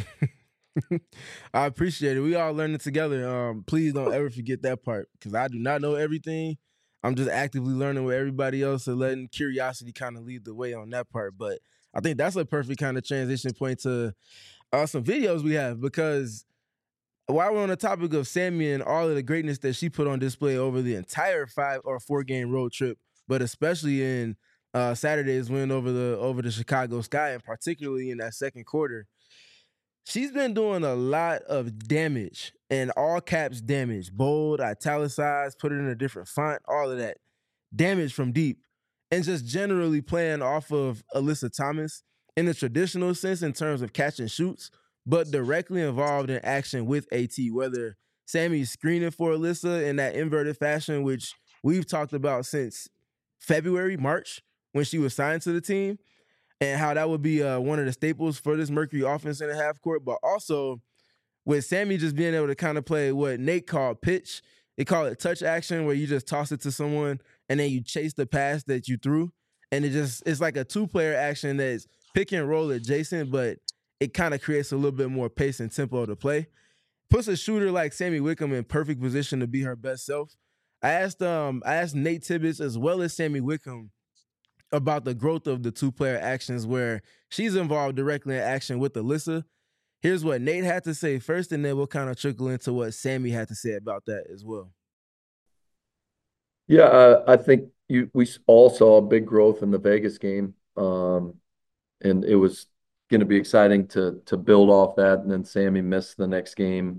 Speaker 2: I appreciate it. We all learning together. Um, please don't ever forget that part because I do not know everything. I'm just actively learning with everybody else and letting curiosity kind of lead the way on that part. But I think that's a perfect kind of transition point to uh, some videos we have because while we're on the topic of Sammy and all of the greatness that she put on display over the entire five or four game road trip, but especially in uh, Saturday's win over the over the Chicago Sky, and particularly in that second quarter, she's been doing a lot of damage, and all caps damage, bold, italicized, put it in a different font, all of that damage from deep, and just generally playing off of Alyssa Thomas in the traditional sense in terms of catch and shoots, but directly involved in action with AT, whether Sammy's screening for Alyssa in that inverted fashion, which we've talked about since February, March, when she was signed to the team, and how that would be uh, one of the staples for this Mercury offense in the half court, but also with Sammy just being able to kind of play what Nate called pitch. They call it touch action, where you just toss it to someone and then you chase the pass that you threw. And it just, it's like a two-player action that's pick and roll adjacent, but it kind of creates a little bit more pace and tempo to play. Puts a shooter like Sammy Whitcomb in perfect position to be her best self. I asked um I asked Nate Tibbetts as well as Sammy Whitcomb about the growth of the two-player actions where she's involved directly in action with Alyssa. Here's what Nate had to say first, and then we'll kind of trickle into what Sammy had to say about that as well.
Speaker 5: Yeah, uh, I think you we all saw a big growth in the Vegas game, um, and it was going to be exciting to to build off that. And then Sammy missed the next game,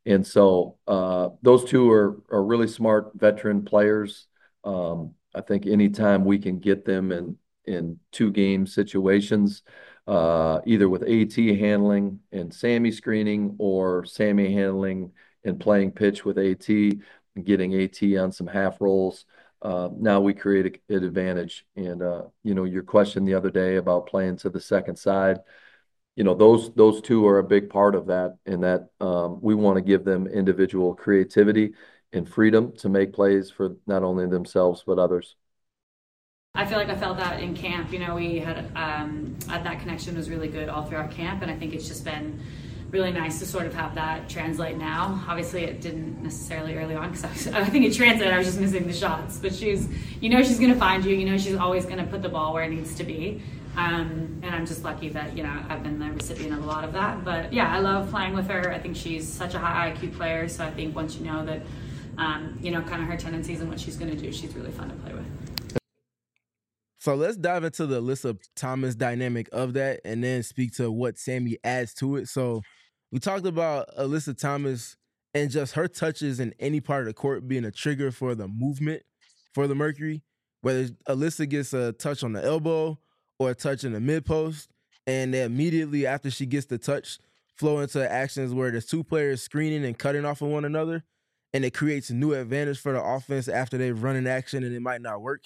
Speaker 5: And so uh, those two are are really smart veteran players. Um, I think anytime we can get them in in two game situations, uh, either with AT handling and Sammy screening, or Sammy handling and playing pitch with AT and getting AT on some half rolls. Uh, now we create a, an advantage. And uh, you know, your question the other day about playing to the second side, you know, those those two are a big part of that, and that um, we want to give them individual creativity and freedom to make plays for not only themselves but others.
Speaker 6: I feel like I felt that in camp. You know, we had um, that connection was really good all throughout camp, and I think it's just been really nice to sort of have that translate now. Obviously, it didn't necessarily early on because I, I think it translated. I was just missing the shots, but she's, you know, she's going to find you. You know, she's always going to put the ball where it needs to be. Um, and I'm just lucky that, you know, I've been the recipient of a lot of that. But yeah, I love playing with her. I think she's such a high I Q player. So I think once you know that, um, you know, kind of her tendencies and what she's going to do, she's really fun to play with.
Speaker 2: So let's dive into the Alyssa Thomas dynamic of that and then speak to what Sammy adds to it. So we talked about Alyssa Thomas and just her touches in any part of the court being a trigger for the movement for the Mercury, whether Alyssa gets a touch on the elbow or a touch in the mid post, and then immediately after she gets the touch, flow into actions where there's two players screening and cutting off of one another, and it creates a new advantage for the offense after they've run in action and it might not work.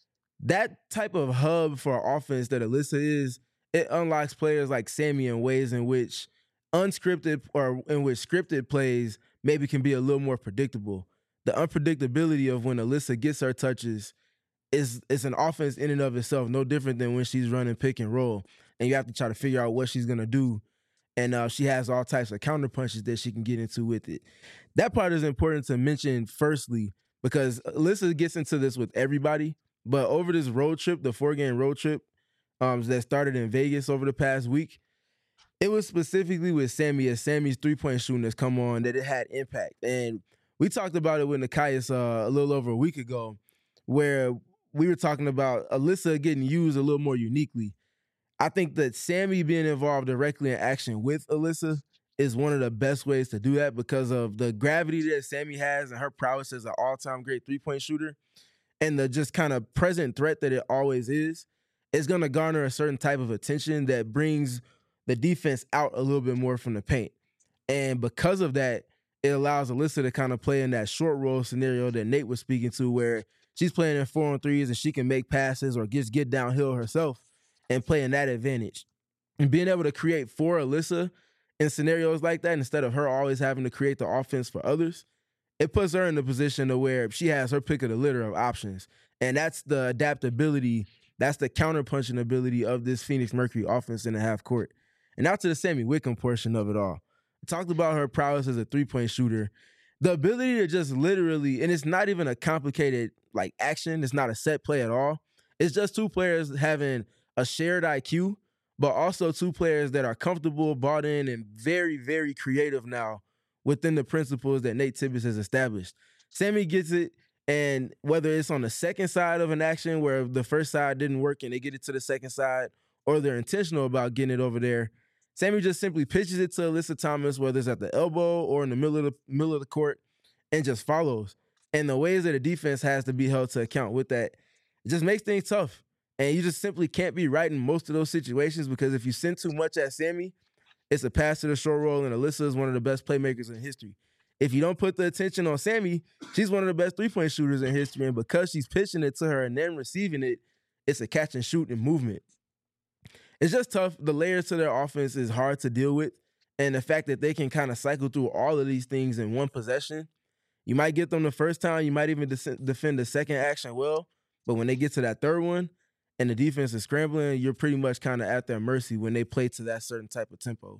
Speaker 2: That type of hub for offense that Alyssa is, it unlocks players like Sammy in ways in which unscripted or in which scripted plays maybe can be a little more predictable. The unpredictability of when Alyssa gets her touches is is an offense in and of itself, no different than when she's running pick and roll, and you have to try to figure out what she's gonna do. And uh, she has all types of counter punches that she can get into with it. That part is important to mention firstly because Alyssa gets into this with everybody. But over this road trip, the four-game road trip um, that started in Vegas over the past week, it was specifically with Sammy as Sammy's three-point shooting has come on that it had impact. And we talked about it with Nekias uh, a little over a week ago where we were talking about Alyssa getting used a little more uniquely. I think that Sammy being involved directly in action with Alyssa is one of the best ways to do that because of the gravity that Sammy has and her prowess as an all-time great three-point shooter. And the just kind of present threat that it always is, is going to garner a certain type of attention that brings the defense out a little bit more from the paint. And because of that, it allows Alyssa to kind of play in that short roll scenario that Nate was speaking to where she's playing in four on threes and she can make passes or just get downhill herself and play in that advantage. And being able to create for Alyssa in scenarios like that instead of her always having to create the offense for others, it puts her in the position to where she has her pick of the litter of options. And that's the adaptability, that's the counter-punching ability of this Phoenix Mercury offense in the half court. And now to the Sammy Whitcomb portion of it all. I talked about her prowess as a three-point shooter. The ability to just literally, and it's not even a complicated like action, it's not a set play at all. It's just two players having a shared I Q, but also two players that are comfortable, bought in, and very, very creative now within the principles that Nate Tibbetts has established. Sammy gets it, and whether it's on the second side of an action where the first side didn't work and they get it to the second side, or they're intentional about getting it over there, Sammy just simply pitches it to Alyssa Thomas, whether it's at the elbow or in the middle of the middle of the court, and just follows. And the ways that the defense has to be held to account with that, it just makes things tough. And you just simply can't be right in most of those situations because if you send too much at Sammy, it's a pass to the short roll, and Alyssa is one of the best playmakers in history. If you don't put the attention on Sammy, she's one of the best three-point shooters in history, and because she's pitching it to her and then receiving it, it's a catch and shoot and movement. It's just tough. The layers to their offense is hard to deal with, and the fact that they can kind of cycle through all of these things in one possession, you might get them the first time, you might even de- defend the second action well, but when they get to that third one, and the defense is scrambling, you're pretty much kind of at their mercy when they play to that certain type of tempo.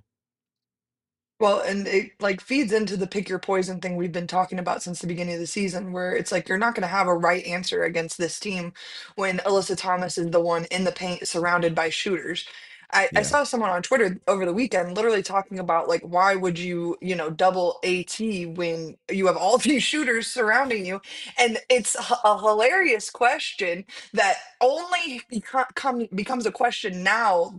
Speaker 1: Well, and it like feeds into the pick your poison thing we've been talking about since the beginning of the season, where it's like you're not going to have a right answer against this team when Alyssa Thomas is the one in the paint surrounded by shooters. I, I
Speaker 2: Yeah.
Speaker 1: saw someone on Twitter over the weekend literally talking about like why would you you know double AT when you have all these shooters surrounding you, and it's h- a hilarious question that only beco- come, becomes a question now that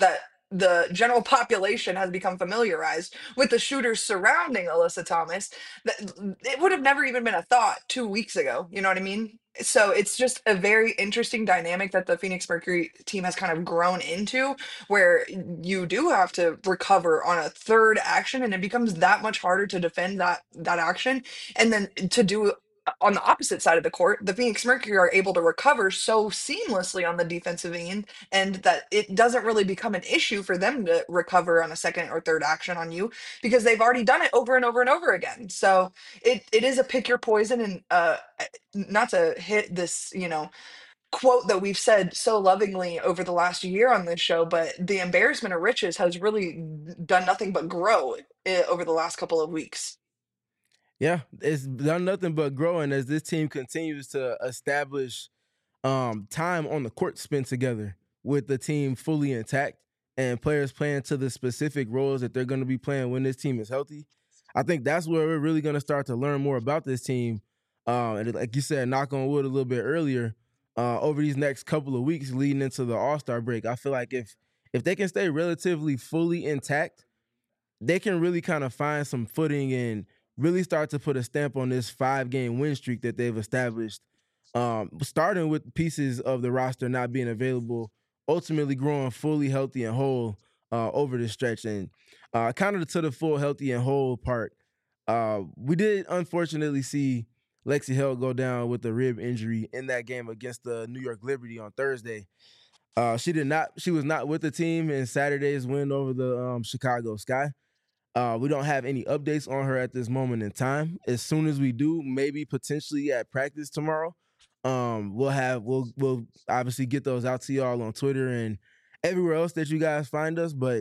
Speaker 1: the general population has become familiarized with the shooters surrounding Alyssa Thomas, that it would have never even been a thought two weeks ago. You know what I mean? So it's just a very interesting dynamic that the Phoenix Mercury team has kind of grown into, where you do have to recover on a third action, and it becomes that much harder to defend that that action, and then to do on the opposite side of the court, the Phoenix Mercury are able to recover so seamlessly on the defensive end, and that it doesn't really become an issue for them to recover on a second or third action on you because they've already done it over and over and over again. So it it is a pick your poison, and uh not to hit this, you know, quote that we've said so lovingly over the last year on this show, but the embarrassment of riches has really done nothing but grow uh, over the last couple of weeks.
Speaker 2: Yeah, it's done nothing but growing as this team continues to establish um, time on the court spent together with the team fully intact and players playing to the specific roles that they're going to be playing when this team is healthy. I think that's where we're really going to start to learn more about this team. Uh, and like you said, knock on wood a little bit earlier, uh, over these next couple of weeks leading into the All-Star break. I feel like if if they can stay relatively fully intact, they can really kind of find some footing and really start to put a stamp on this five-game win streak that they've established, um, starting with pieces of the roster not being available, ultimately growing fully healthy and whole uh, over the stretch. And uh, kind of to the full healthy and whole part, uh, we did unfortunately see Lexi Held go down with a rib injury in that game against the New York Liberty on Thursday. Uh, she did not. She was not with the team in Saturday's win over the um, Chicago Sky. Uh, we don't have any updates on her at this moment in time. As soon as we do, maybe potentially at practice tomorrow, um, we'll have we'll we'll obviously get those out to y'all on Twitter and everywhere else that you guys find us. But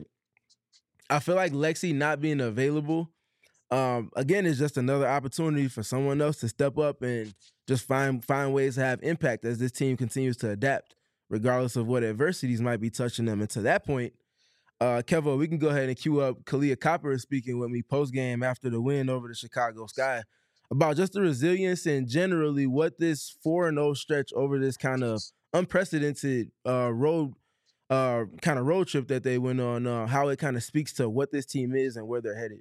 Speaker 2: I feel like Lexi not being available, um, again, is just another opportunity for someone else to step up and just find find ways to have impact as this team continues to adapt, regardless of what adversities might be touching them. And to that point, Uh, Kevo, we can go ahead and cue up Kahleah Copper speaking with me post-game after the win over the Chicago Sky about just the resilience and generally what this four and oh stretch over this kind of unprecedented uh, road uh, kind of road trip that they went on, uh, how it kind of speaks to what this team is and where they're headed.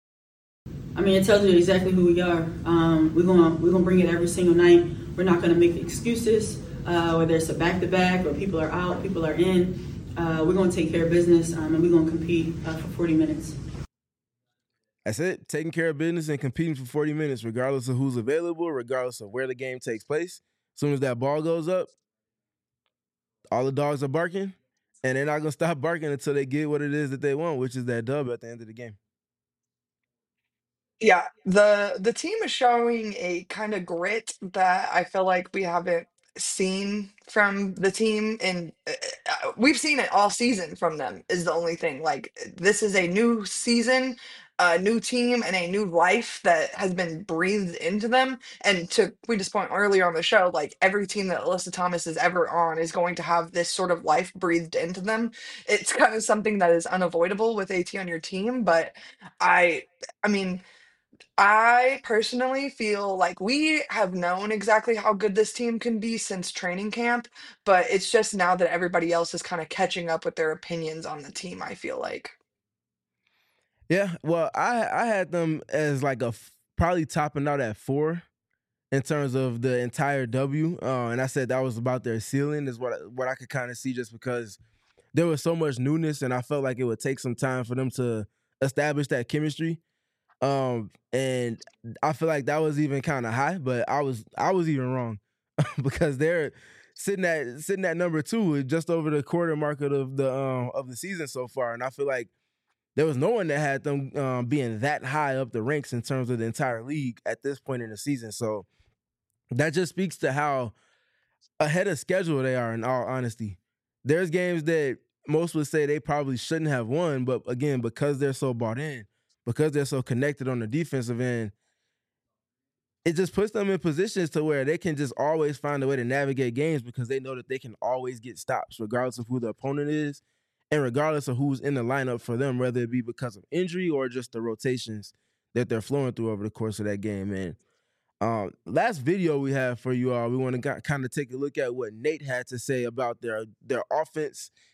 Speaker 7: I mean, it tells you exactly who we are. Um, we're gonna we're gonna bring it every single night. We're not gonna make excuses, uh, whether it's a back-to-back or people are out, people are in. Uh, we're going to take care of business, um, and we're going to compete uh, for forty minutes.
Speaker 2: That's it. Taking care of business and competing for forty minutes, regardless of who's available, regardless of where the game takes place. As soon as that ball goes up, all the dogs are barking, and they're not going to stop barking until they get what it is that they want, which is that dub at the end of the game.
Speaker 1: Yeah, the the team is showing a kind of grit that I feel like we haven't seen from the team, and uh, uh, we've seen it all season from them is the only thing. Like this is a new season, a new team, and a new life that has been breathed into them. And to Queen's point earlier on the show, like every team that Alyssa Thomas is ever on is going to have this sort of life breathed into them. It's kind of something that is unavoidable with AT on your team, but I I mean, I personally feel like we have known exactly how good this team can be since training camp, but it's just now that everybody else is kind of catching up with their opinions on the team, I feel like.
Speaker 2: Yeah, well, I I had them as like a f- probably topping out at four in terms of the entire W, uh, and I said that was about their ceiling is what I, what I could kind of see just because there was so much newness, and I felt like it would take some time for them to establish that chemistry. Um, and I feel like that was even kind of high, but I was I was even wrong because they're sitting at sitting at number two, just over the quarter mark of the um, of the season so far, and I feel like there was no one that had them um, being that high up the ranks in terms of the entire league at this point in the season. So that just speaks to how ahead of schedule they are, in all honesty. There's games that most would say they probably shouldn't have won, but again, because they're so bought in, because they're so connected on the defensive end, it just puts them in positions to where they can just always find a way to navigate games because they know that they can always get stops, regardless of who the opponent is and regardless of who's in the lineup for them, whether it be because of injury or just the rotations that they're flowing through over the course of that game, man. Um, last video we have for you all, we want to kind of take a look at what Nate had to say about their their offense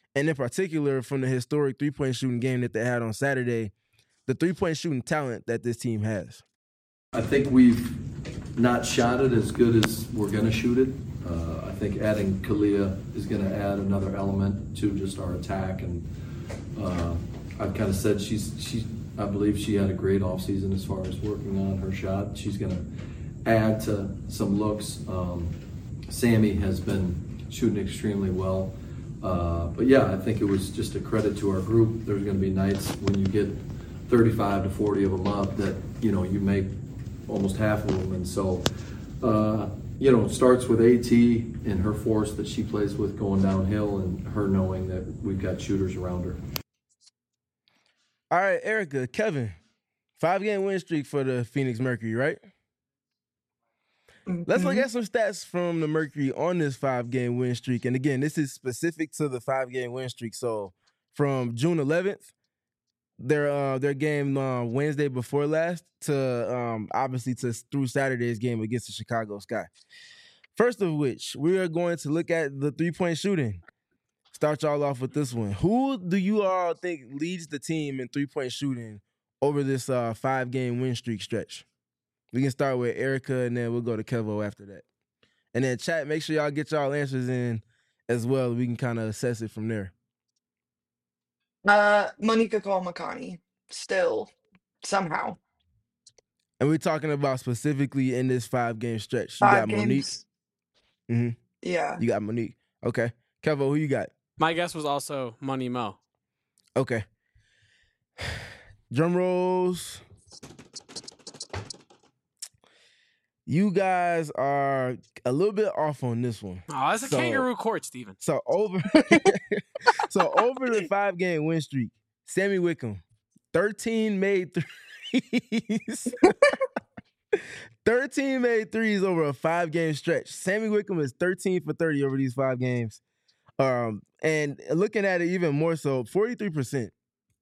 Speaker 2: And in particular, from the historic three-point shooting game that they had on Saturday, the three-point shooting talent that this team has.
Speaker 5: I think we've not shot it as good as we're going to shoot it. Uh, I think adding Kalia is going to add another element to just our attack. And uh, I've kind of said she's, she, I believe she had a great offseason as far as working on her shot. She's going to add to some looks. Um, Sammy has been shooting extremely well. Uh, but yeah, I think it was just a credit to our group. There's going to be nights when you get thirty-five to forty of them up that, you know, you make almost half of them. And so, uh, you know, it starts with AT and her force that she plays with going downhill and her knowing that we've got shooters around her.
Speaker 2: All right, Erica, Kevin, five-game win streak for the Phoenix Mercury, right? Mm-hmm. Let's look at some stats from the Mercury on this five-game win streak. And again, this is specific to the five-game win streak. So from June eleventh, their uh, their game uh, Wednesday before last to um, obviously to through Saturday's game against the Chicago Sky. First of which, we are going to look at the three-point shooting. Start y'all off with this one. Who do you all think leads the team in three-point shooting over this uh, five-game win streak stretch? We can start with Erica, and then we'll go to Kevo after that. And then chat, make sure y'all get y'all answers in as well. We can kind of assess it from there.
Speaker 1: Uh, Monica Cole-Makani, still, somehow.
Speaker 2: And we're talking about specifically in this five-game stretch. You
Speaker 1: Five
Speaker 2: got Monique.
Speaker 1: games.
Speaker 2: Mm-hmm.
Speaker 1: Yeah.
Speaker 2: You got Monique. Okay. Kevo, who you got?
Speaker 3: My guess was also Money Mo.
Speaker 2: Okay. Drum rolls. You guys are a little bit off on this one.
Speaker 3: Oh, that's a
Speaker 2: so,
Speaker 3: kangaroo court, Steven.
Speaker 2: So over, so over the five-game win streak, Sammy Wickham, thirteen made threes. thirteen made threes over a five-game stretch. Sammy Wickham is thirteen for thirty over these five games. Um, and looking at it even more so, forty-three percent.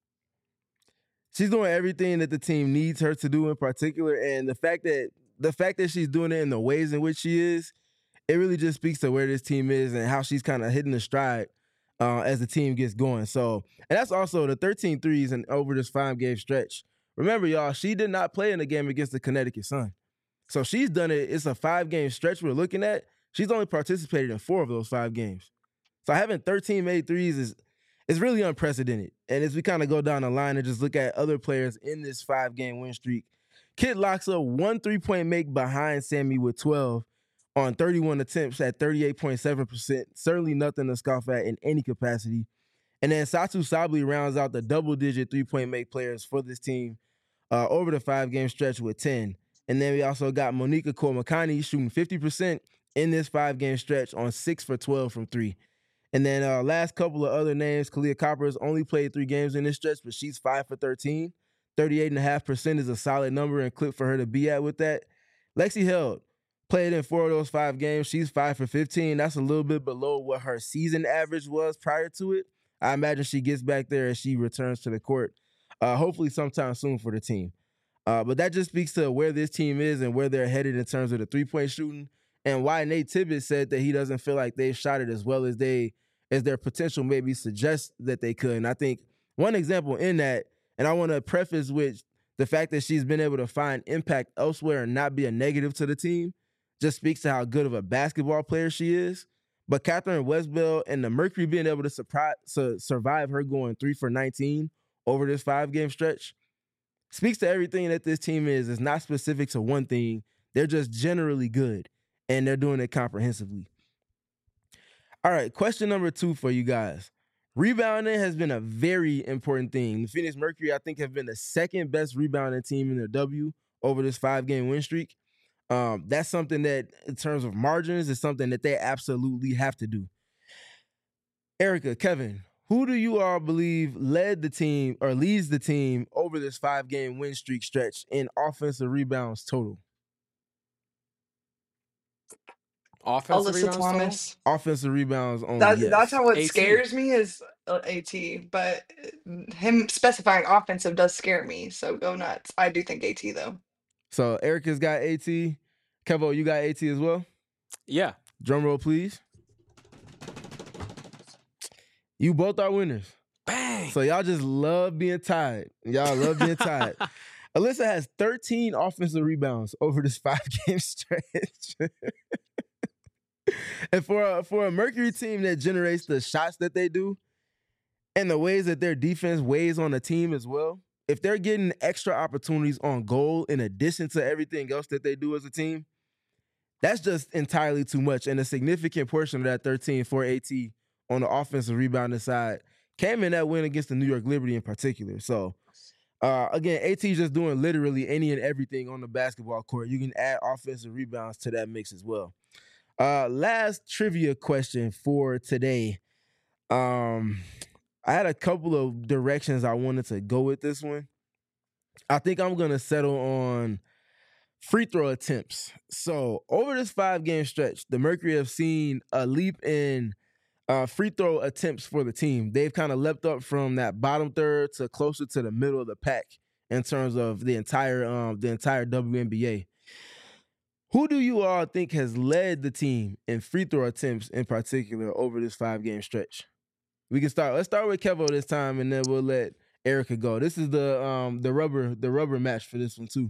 Speaker 2: She's doing everything that the team needs her to do in particular. And the fact that the fact that she's doing it in the ways in which she is, it really just speaks to where this team is and how she's kind of hitting the stride uh, as the team gets going. So, and that's also the thirteen threes and over this five-game stretch. Remember, y'all, she did not play in the game against the Connecticut Sun. So she's done it. It's a five-game stretch we're looking at. She's only participated in four of those five games. So having thirteen made threes is is really unprecedented. And as we kind of go down the line and just look at other players in this five-game win streak, Kit locks up one three-point make behind Sammy with twelve on thirty-one attempts at thirty-eight point seven percent. Certainly nothing to scoff at in any capacity. And then Satou Sabally rounds out the double-digit three-point make players for this team uh, over the five-game stretch with ten. And then we also got Monica Cole-Makani shooting fifty percent in this five-game stretch on six for twelve from three. And then uh, last couple of other names, Kalia Copper's only played three games in this stretch, but she's five for thirteen. thirty-eight point five percent is a solid number and clip for her to be at with that. Lexi Held played in four of those five games. She's five for fifteen. That's a little bit below what her season average was prior to it. I imagine she gets back there as she returns to the court, uh, hopefully sometime soon for the team. Uh, but that just speaks to where this team is and where they're headed in terms of the three-point shooting and why Nate Tibbetts said that he doesn't feel like they've shot it as well as they as their potential maybe suggests that they could. And I think one example in that, and I want to preface with the fact that she's been able to find impact elsewhere and not be a negative to the team, just speaks to how good of a basketball player she is. But Catherine Westbell and the Mercury being able to surprise, su- survive her going three for nineteen over this five-game stretch speaks to everything that this team is. It's not specific to one thing. They're just generally good, and they're doing it comprehensively. All right, question number two for you guys. Rebounding has been a very important thing. The Phoenix Mercury, I think, have been the second best rebounding team in their W over this five-game win streak. Um, that's something that, in terms of margins, is something that they absolutely have to do. Erica, Kevin, who do you all believe led the team or leads the team over this five-game win streak stretch in offensive rebounds total?
Speaker 3: Offensive
Speaker 1: Alyssa
Speaker 3: rebounds
Speaker 1: Thomas.
Speaker 3: total?
Speaker 2: Offensive rebounds only,
Speaker 1: That's,
Speaker 2: yes.
Speaker 1: that's how it
Speaker 3: AT.
Speaker 1: scares me is uh, AT, but him specifying offensive does scare me, so go nuts. I do think AT, though.
Speaker 2: So Erica's got AT. Kevo, you got AT as well?
Speaker 3: Yeah.
Speaker 2: Drum roll, please. You both are winners.
Speaker 3: Bang.
Speaker 2: So y'all just love being tied. Y'all love being tied. Alyssa has thirteen offensive rebounds over this five-game stretch. And for a, for a Mercury team that generates the shots that they do and the ways that their defense weighs on the team as well, if they're getting extra opportunities on goal in addition to everything else that they do as a team, that's just entirely too much. And a significant portion of that thirteen for AT on the offensive rebounding side came in that win against the New York Liberty in particular. So, uh, again, AT just doing literally any and everything on the basketball court. You can add offensive rebounds to that mix as well. Uh, last trivia question for today. Um, I had a couple of directions I wanted to go with this one. I think I'm going to settle on free throw attempts. So over this five-game stretch, the Mercury have seen a leap in uh, free throw attempts for the team. They've kind of leapt up from that bottom third to closer to the middle of the pack in terms of the entire um, the entire W N B A. Who do you all think has led the team in free throw attempts in particular over this five-game stretch? We can start. Let's start with Kevo this time, and then we'll let Erica go. This is the um the rubber the rubber match for this one too.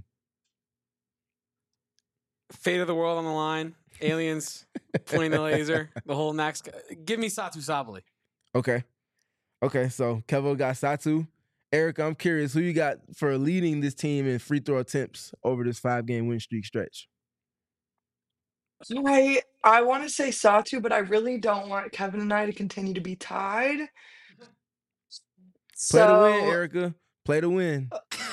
Speaker 3: Fate of the world on the line. Aliens pointing the laser. The whole Max. Give me Satu Sabali.
Speaker 2: Okay, okay. So Kevo got Satu. Erica, I'm curious who you got for leading this team in free throw attempts over this five-game win streak stretch.
Speaker 1: I I want to say Satu, but I really don't want Kevin and I to continue to be tied.
Speaker 2: Play to win,
Speaker 1: So,
Speaker 2: Erica. Play to win.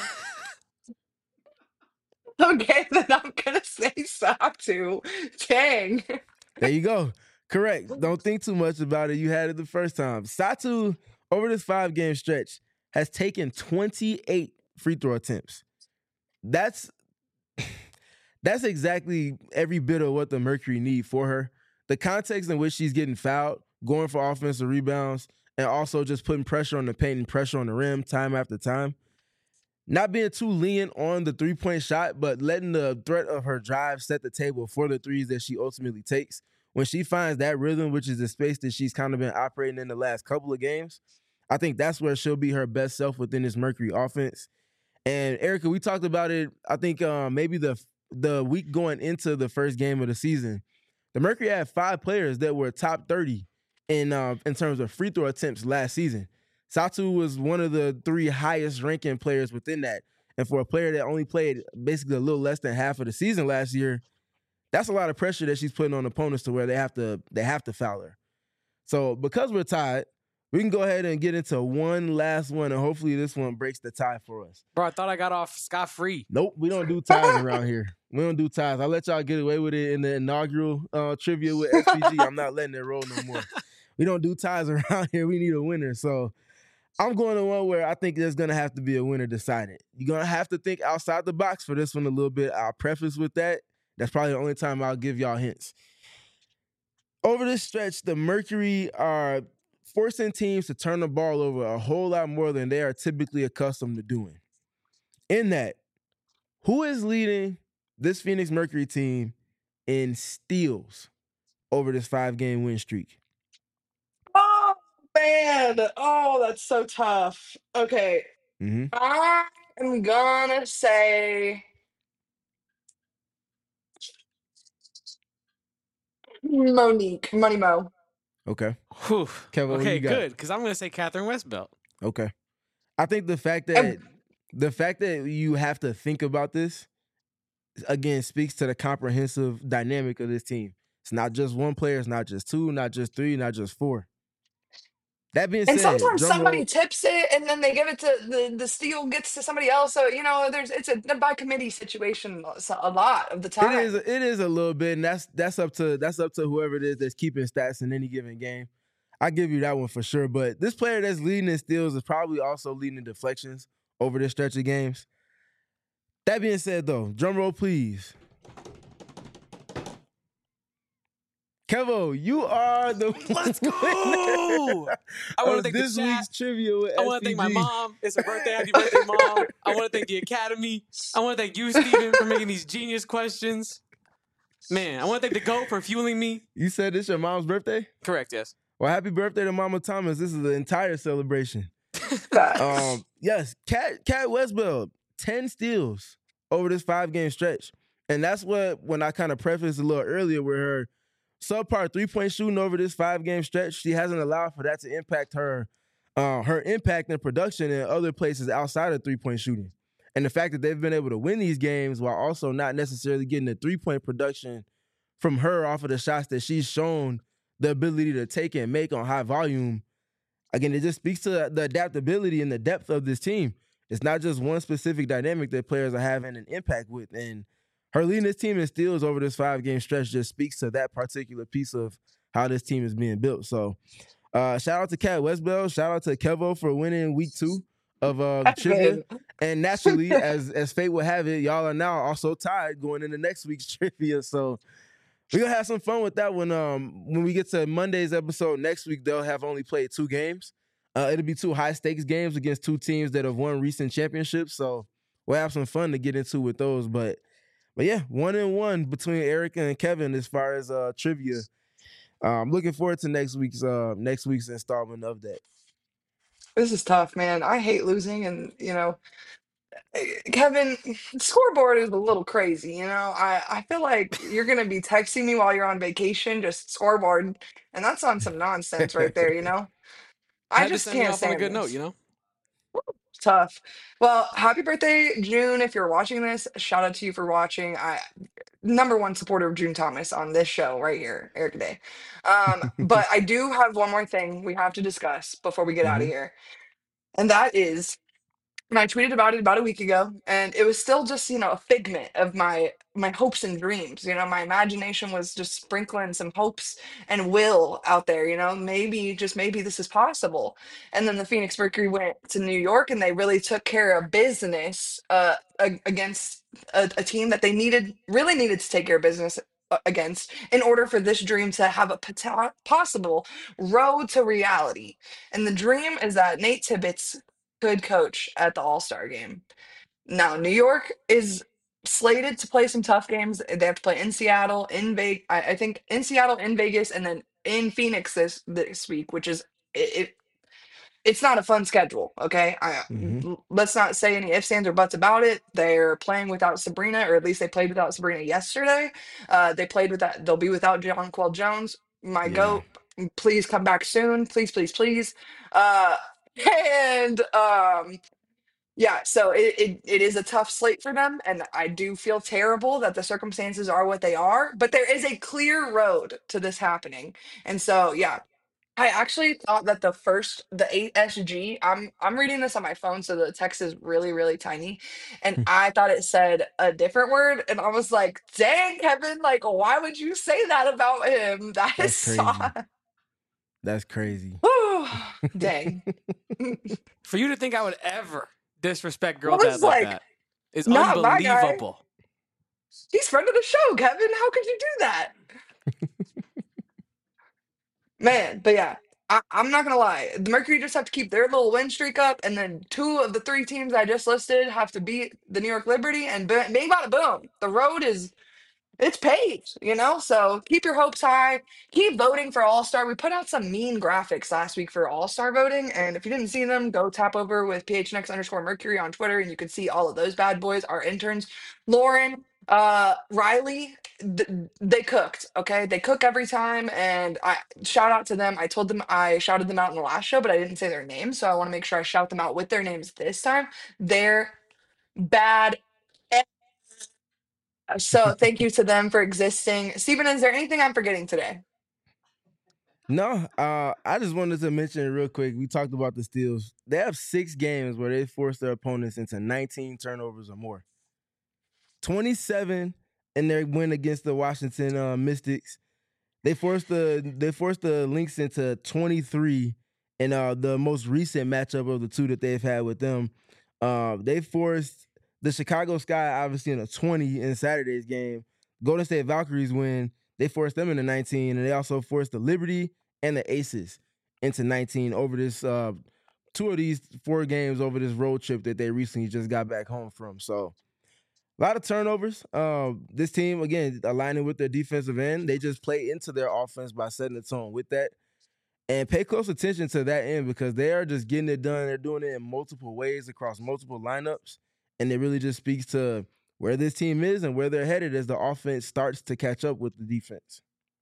Speaker 1: okay, then I'm gonna say Satu. Dang.
Speaker 2: There you go. Correct. Don't think too much about it. You had it the first time. Satu, over this five-game stretch, has taken twenty-eight free throw attempts. That's that's exactly every bit of what the Mercury need for her. The context in which she's getting fouled, going for offensive rebounds, and also just putting pressure on the paint and pressure on the rim time after time. Not being too lenient on the three-point shot, but letting the threat of her drive set the table for the threes that she ultimately takes. When she finds that rhythm, which is the space that she's kind of been operating in the last couple of games, I think that's where she'll be her best self within this Mercury offense. And Erica, we talked about it, I think um, maybe the the week going into the first game of the season. The Mercury had five players that were top thirty in uh, in terms of free throw attempts last season. Satu was one of the three highest ranking players within that. And for a player that only played basically a little less than half of the season last year, that's a lot of pressure that she's putting on opponents to where they have to they have to foul her. So because we're tied, we can go ahead and get into one last one, and hopefully this one breaks the tie for us.
Speaker 3: Bro, I thought I got off scot-free.
Speaker 2: Nope, we don't do ties around here. We don't do ties. I let y'all get away with it in the inaugural uh, trivia with S P G. I'm not letting it roll no more. We don't do ties around here. We need a winner. So I'm going to one where I think there's going to have to be a winner decided. You're going to have to think outside the box for this one a little bit. I'll preface with that. That's probably the only time I'll give y'all hints. Over this stretch, the Mercury are forcing teams to turn the ball over a whole lot more than they are typically accustomed to doing. In that, who is leading this Phoenix Mercury team in steals over this five-game win streak?
Speaker 1: Oh man. Oh, that's so tough. Okay.
Speaker 2: Mm-hmm.
Speaker 1: I'm gonna say Monique. Money Mo.
Speaker 2: Okay.
Speaker 3: Whew.
Speaker 2: Kevin, what
Speaker 3: okay,
Speaker 2: you got?
Speaker 3: good, because I'm going to say Catherine Westbelt.
Speaker 2: Okay. I think the fact that
Speaker 1: And
Speaker 2: the fact that you have to think about this, again, speaks to the comprehensive dynamic of this team. It's not just one player. It's not just two, not just three, not just four. That being
Speaker 1: and
Speaker 2: said,
Speaker 1: sometimes
Speaker 2: drum
Speaker 1: somebody
Speaker 2: roll.
Speaker 1: tips it and then they give it to the the steal gets to somebody else. So, you know, there's it's a by committee situation so- a lot of the
Speaker 2: It is
Speaker 1: time.
Speaker 2: it is a little bit, and that's that's up to that's up to whoever it is that's keeping stats in any given game. I give you that one for sure. But this player that's leading in steals is probably also leading in deflections over this stretch of games. That being said, though, drum roll, please. Kevo, you are the
Speaker 3: Let's go!
Speaker 2: winner
Speaker 3: I want to
Speaker 2: of
Speaker 3: thank
Speaker 2: this
Speaker 3: the chat.
Speaker 2: week's trivia with
Speaker 3: I want to thank my
Speaker 2: S P G.
Speaker 3: mom. It's her birthday. Happy birthday, Mom. I want to thank the Academy. I want to thank you, Steven, for making these genius questions. Man, I want to thank the GOAT for fueling me.
Speaker 2: You said it's your mom's birthday?
Speaker 3: Correct, yes.
Speaker 2: Well, happy birthday to Mama Thomas. This is the entire celebration.
Speaker 1: Facts.
Speaker 2: Um, yes, Cat Cat Westbeld, ten steals over this five game stretch, and that's what when I kind of prefaced a little earlier with her subpar three point shooting over this five game stretch, she hasn't allowed for that to impact her, uh, her impact and production in other places outside of three point shooting, and the fact that they've been able to win these games while also not necessarily getting the three point production from her off of the shots that she's shown the ability to take and make on high volume. Again, it just speaks to the adaptability and the depth of this team. It's not just one specific dynamic that players are having an impact with. And her leading this team in steals over this five-game stretch just speaks to that particular piece of how this team is being built. So uh, shout out to Cat Westbell. Shout out to Kevo for winning week two of uh, trivia. And naturally, as, as fate would have it, y'all are now also tied going into next week's trivia. So we're going to have some fun with that one. Um, when we get to Monday's episode next week, they'll have only played two games. Uh, it'll be two high-stakes games against two teams that have won recent championships. So we'll have some fun to get into with those. But, but yeah, one and one between Erica and Kevin as far as uh, trivia. Uh, I'm looking forward to next week's uh, next week's installment of that.
Speaker 1: This is tough, man. I hate losing, and you know, Kevin, scoreboard is a little crazy, you know. I, I feel like you're gonna be texting me while you're on vacation, just scoreboard, and that's on some nonsense right there, you know. I
Speaker 3: Had to
Speaker 1: just
Speaker 3: send me
Speaker 1: can't
Speaker 3: off on a
Speaker 1: stand
Speaker 3: good note,
Speaker 1: this.
Speaker 3: you know?
Speaker 1: It's tough. Well, happy birthday, June. If you're watching this, shout out to you for watching. I number one supporter of June Thomas on this show right here, Eric Day. Um, but I do have one more thing we have to discuss before we get out of
Speaker 2: Mhm.
Speaker 1: here, and that is and I tweeted about it about a week ago, and it was still just, you know, a figment of my my hopes and dreams. You know, my imagination was just sprinkling some hopes and will out there, you know, maybe, just maybe this is possible. And then the Phoenix Mercury went to New York and they really took care of business uh a- against a, a team that they needed really needed to take care of business uh, against in order for this dream to have a pota- possible road to reality. And the dream is that Nate Tibbetts could coach at the All-Star game. Now, New York is slated to play some tough games. They have to play in Seattle, in Vegas. I, I think in Seattle, in Vegas, and then in Phoenix this this week, which is it. it it's not a fun schedule, okay? I,
Speaker 2: Mhm.
Speaker 1: l- let's not say any ifs, ands, or buts about it. They're playing without Sabrina, or at least they played without Sabrina yesterday. Uh, they played with that. They'll be without Jonquel Jones. My
Speaker 2: Yeah.
Speaker 1: goat, please come back soon, please, please, please. Uh, and um, yeah, so it, it it is a tough slate for them, and I do feel terrible that the circumstances are what they are. But there is a clear road to this happening, and so yeah, I actually thought that the first, the eight S G, I'm I'm reading this on my phone, so the text is really, really tiny. And I thought it said a different word. And I was like, dang, Kevin, like, why would you say that about him? That is
Speaker 2: That's crazy.
Speaker 1: soft.
Speaker 2: That's crazy.
Speaker 1: Dang.
Speaker 3: For you to think I would ever disrespect
Speaker 1: I
Speaker 3: girl dad
Speaker 1: was
Speaker 3: like
Speaker 1: like,
Speaker 3: that is
Speaker 1: not my guy.
Speaker 3: unbelievable.
Speaker 1: He's friend of the show, Kevin. How could you do that? Man, but yeah, I, I'm not gonna lie. The Mercury just have to keep their little win streak up, and then two of the three teams I just listed have to beat the New York Liberty, and bo- bing, bada, boom. The road is it's paved, you know? So keep your hopes high. Keep voting for All Star. We put out some mean graphics last week for All Star voting. And if you didn't see them, go tap over with P H N X underscore Mercury on Twitter and you can see all of those bad boys, our interns. Lauren, uh, Riley, th- they cooked, okay? They cook every time. And I shout out to them. I told them I shouted them out in the last show, but I didn't say their names. So I want to make sure I shout them out with their names this time. They're bad. So thank you to them for existing. Stephen, is there anything I'm forgetting today?
Speaker 2: No, uh, I just wanted to mention real quick. We talked about the steals. They have six games where they force their opponents into nineteen turnovers or more. twenty-seven in their win against the Washington uh, Mystics. They forced the they forced the Lynx into twenty-three in uh, the most recent matchup of the two that they've had with them. Uh, they forced the Chicago Sky obviously in a twenty in Saturday's game. Golden State Valkyries win. They forced them into nineteen, and they also forced the Liberty and the Aces into nineteen over this uh, two of these four games over this road trip that they recently just got back home from. So a lot of turnovers. Um, this team, again, aligning with their defensive end, they just play into their offense by setting the tone with that. And pay close attention to that end because they are just getting it done. They're doing it in multiple ways across multiple lineups. And it really just speaks to where this team is and where they're headed as the offense starts to catch up with the defense.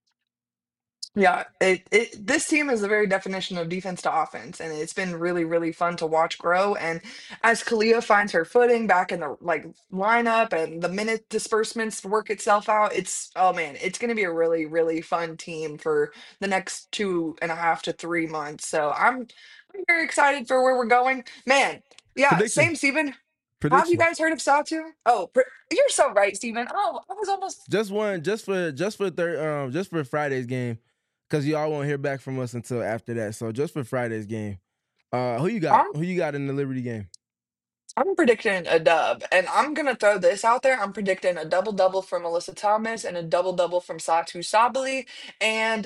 Speaker 1: Yeah, it, it this team is the very definition of defense to offense, and it's been really, really fun to watch grow. And as Kalia finds her footing back in the like lineup and the minute disbursements work itself out, it's oh man, it's gonna be a really, really fun team for the next two and a half to three months. So I'm I'm very excited for where we're going. Man, yeah,
Speaker 2: Prediction.
Speaker 1: same Steven. Have you
Speaker 2: Prediction.
Speaker 1: guys heard of Satu? Oh, pr- you're so right, Steven. Oh, I was almost
Speaker 2: Just one, just for just for third, um, just for Friday's game, because y'all won't hear back from us until after that. So just for Friday's game, uh, who you got?
Speaker 1: I'm
Speaker 2: Who you got in the Liberty game?
Speaker 1: I'm predicting a dub, and I'm gonna throw this out there. I'm predicting a double double from Alyssa Thomas and a double double from Satu Sabali, and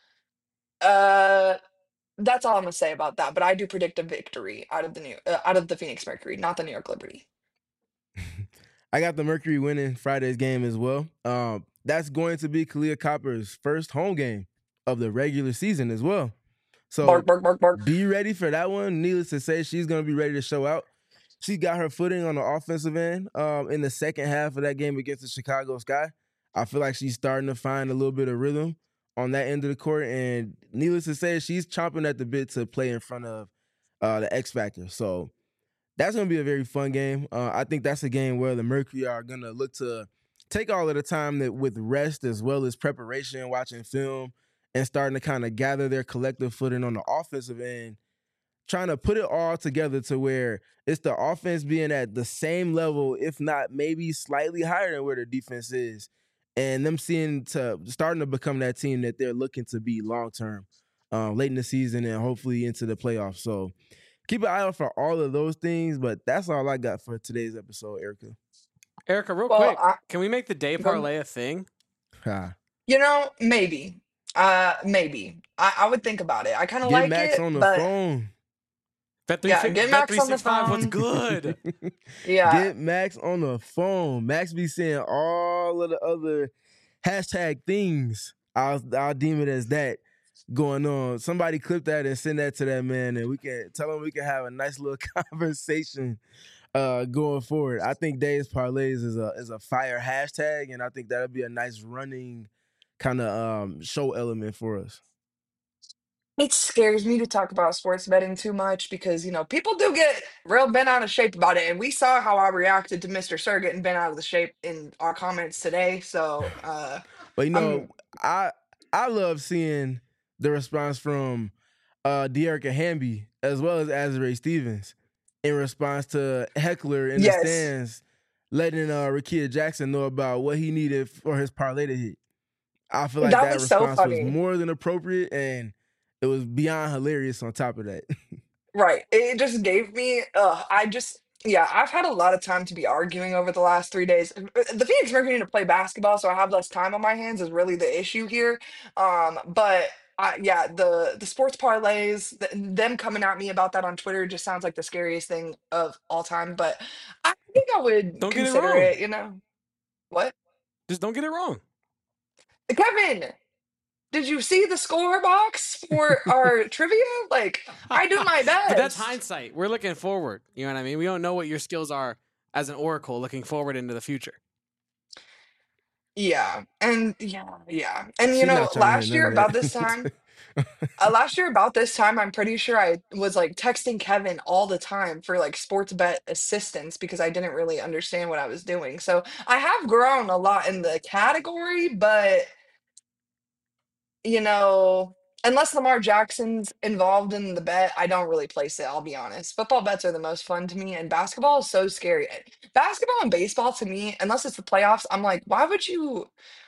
Speaker 1: uh, that's all I'm gonna say about that. But I do predict a victory out of the new uh, out of the Phoenix Mercury, not the New York Liberty.
Speaker 2: I got the Mercury winning Friday's game as well. Um, that's going to be Kalia Copper's first home game of the regular season as well. So
Speaker 1: Bark, bark, bark, bark.
Speaker 2: be ready for that one. Needless to say, she's going to be ready to show out. She got her footing on the offensive end um, in the second half of that game against the Chicago Sky. I feel like she's starting to find a little bit of rhythm on that end of the court. And needless to say, she's chomping at the bit to play in front of uh, the X Factor. So that's going to be a very fun game. Uh, I think that's a game where the Mercury are going to look to take all of the time that with rest as well as preparation, watching film, and starting to kind of gather their collective footing on the offensive end, trying to put it all together to where it's the offense being at the same level, if not maybe slightly higher than where the defense is, and them seeing to starting to become that team that they're looking to be long-term, uh, late in the season and hopefully into the playoffs. So keep an eye out for all of those things, but that's all I got for today's episode, Erica.
Speaker 3: Erica, real
Speaker 1: Well,
Speaker 3: quick,
Speaker 1: I,
Speaker 3: can we make the day parlay a thing?
Speaker 2: Ha.
Speaker 1: you know, maybe, uh, maybe I, I would think about it. I kind of
Speaker 2: Get
Speaker 1: like
Speaker 2: Max
Speaker 1: it,
Speaker 2: on the
Speaker 1: but
Speaker 2: phone.
Speaker 3: Bet three,
Speaker 1: yeah, get
Speaker 3: Bet
Speaker 1: Max
Speaker 3: three
Speaker 1: on the
Speaker 3: six five. What's
Speaker 1: phone.
Speaker 3: good?
Speaker 1: Yeah,
Speaker 2: Get Max on the phone. Max be saying all of the other hashtag things. I'll I'll deem it as that going on. Somebody clip that and send that to that man, and we can tell him we can have a nice little conversation uh, going forward. I think Days Parlays is a is a fire hashtag, and I think that'll be a nice running kind of um, show element for us.
Speaker 1: it scares me to talk about sports betting too much because, you know, people do get real bent out of shape about it. And we saw how I reacted to Mister Sir getting bent out of the shape in our comments today. So uh
Speaker 2: But you know,
Speaker 1: I'm
Speaker 2: I I love seeing the response from uh De'Erica Hamby as well as Azare Stevens in response to Heckler in the
Speaker 1: yes.
Speaker 2: stands letting uh Rakia Jackson know about what he needed for his parlay to hit. I feel like
Speaker 1: That
Speaker 2: that
Speaker 1: was so
Speaker 2: response was
Speaker 1: funny.
Speaker 2: more than appropriate, and it was beyond hilarious on top of that.
Speaker 1: Right. It just gave me uh I just yeah, I've had a lot of time to be arguing over the last three days. Uh, The Phoenix Mercury need to play basketball, so I have less time on my hands is really the issue here. Um, but I, yeah, the the sports parlays, th them coming at me about that on Twitter just sounds like the scariest thing of all time. But I think I would
Speaker 3: Don't get it
Speaker 1: consider
Speaker 3: wrong.
Speaker 1: it, you know. What?
Speaker 3: Just don't get it wrong.
Speaker 1: Kevin, did you see the score box for our trivia? Like, I do my
Speaker 3: But that's
Speaker 1: best.
Speaker 3: hindsight. We're looking forward. You know what I mean? We don't know what your skills are as an oracle looking forward into the future.
Speaker 1: Yeah, and yeah, yeah. And you
Speaker 2: She's
Speaker 1: know,
Speaker 2: not trying to hear
Speaker 1: last
Speaker 2: none
Speaker 1: year
Speaker 2: of
Speaker 1: about this
Speaker 2: that.
Speaker 1: time, uh, last year about this time, I'm pretty sure I was like texting Kevin all the time for like sports bet assistance because I didn't really understand what I was doing. So I have grown a lot in the category, but you know, unless Lamar Jackson's involved in the bet, I don't really place it, I'll be honest. Football bets are the most fun to me, and basketball is so scary. Basketball and baseball to me, unless it's the playoffs, I'm like, why would you?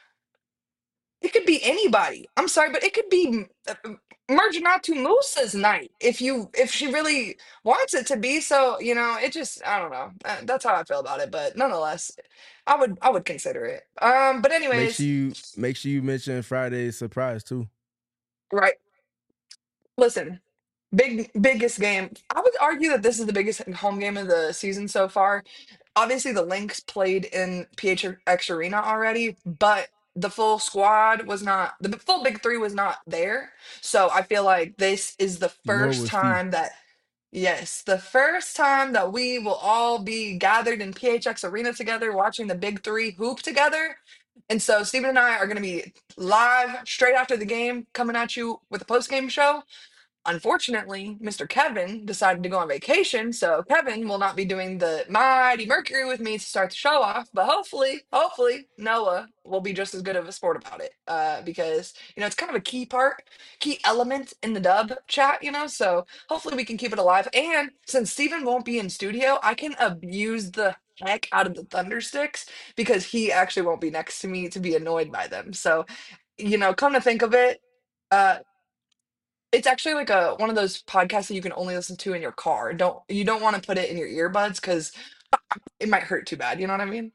Speaker 1: It could be anybody. I'm sorry, but it could be M- uh, M- Merginatu Musa's night if you if she really wants it to be. So, you know, it just I don't know. Uh, That's how I feel about it. But nonetheless, I would I would consider it. Um, but
Speaker 2: make sure
Speaker 1: anyways,
Speaker 2: you make sure you mention Friday's surprise too.
Speaker 1: right. Listen, big biggest game. I would argue that this is the biggest home game of the season so far. Obviously, the Lynx played in P H X Arena already, but the full squad was not, the full big three was not there. So I feel like this is the
Speaker 2: Nor
Speaker 1: first
Speaker 2: was Fee.
Speaker 1: time that, yes, the first time that we will all be gathered in P H X Arena together, watching the big three hoop together. And so Stephen and I are going to be live straight after the game, coming at you with a post game show. Unfortunately, Mister Kevin decided to go on vacation, so Kevin will not be doing the Mighty Mercury with me to start the show off. But hopefully, hopefully Noah will be just as good of a sport about it, uh, because you know it's kind of a key part, key element in the dub chat. You know, so hopefully we can keep it alive. And since Steven won't be in studio, I can abuse the heck out of the Thunder Sticks because he actually won't be next to me to be annoyed by them. So, you know, come to think of it. Uh, it's actually like a one of those podcasts that you can only listen to in your car. Don't you don't want to put it in your earbuds because it might hurt too bad. You know what I mean?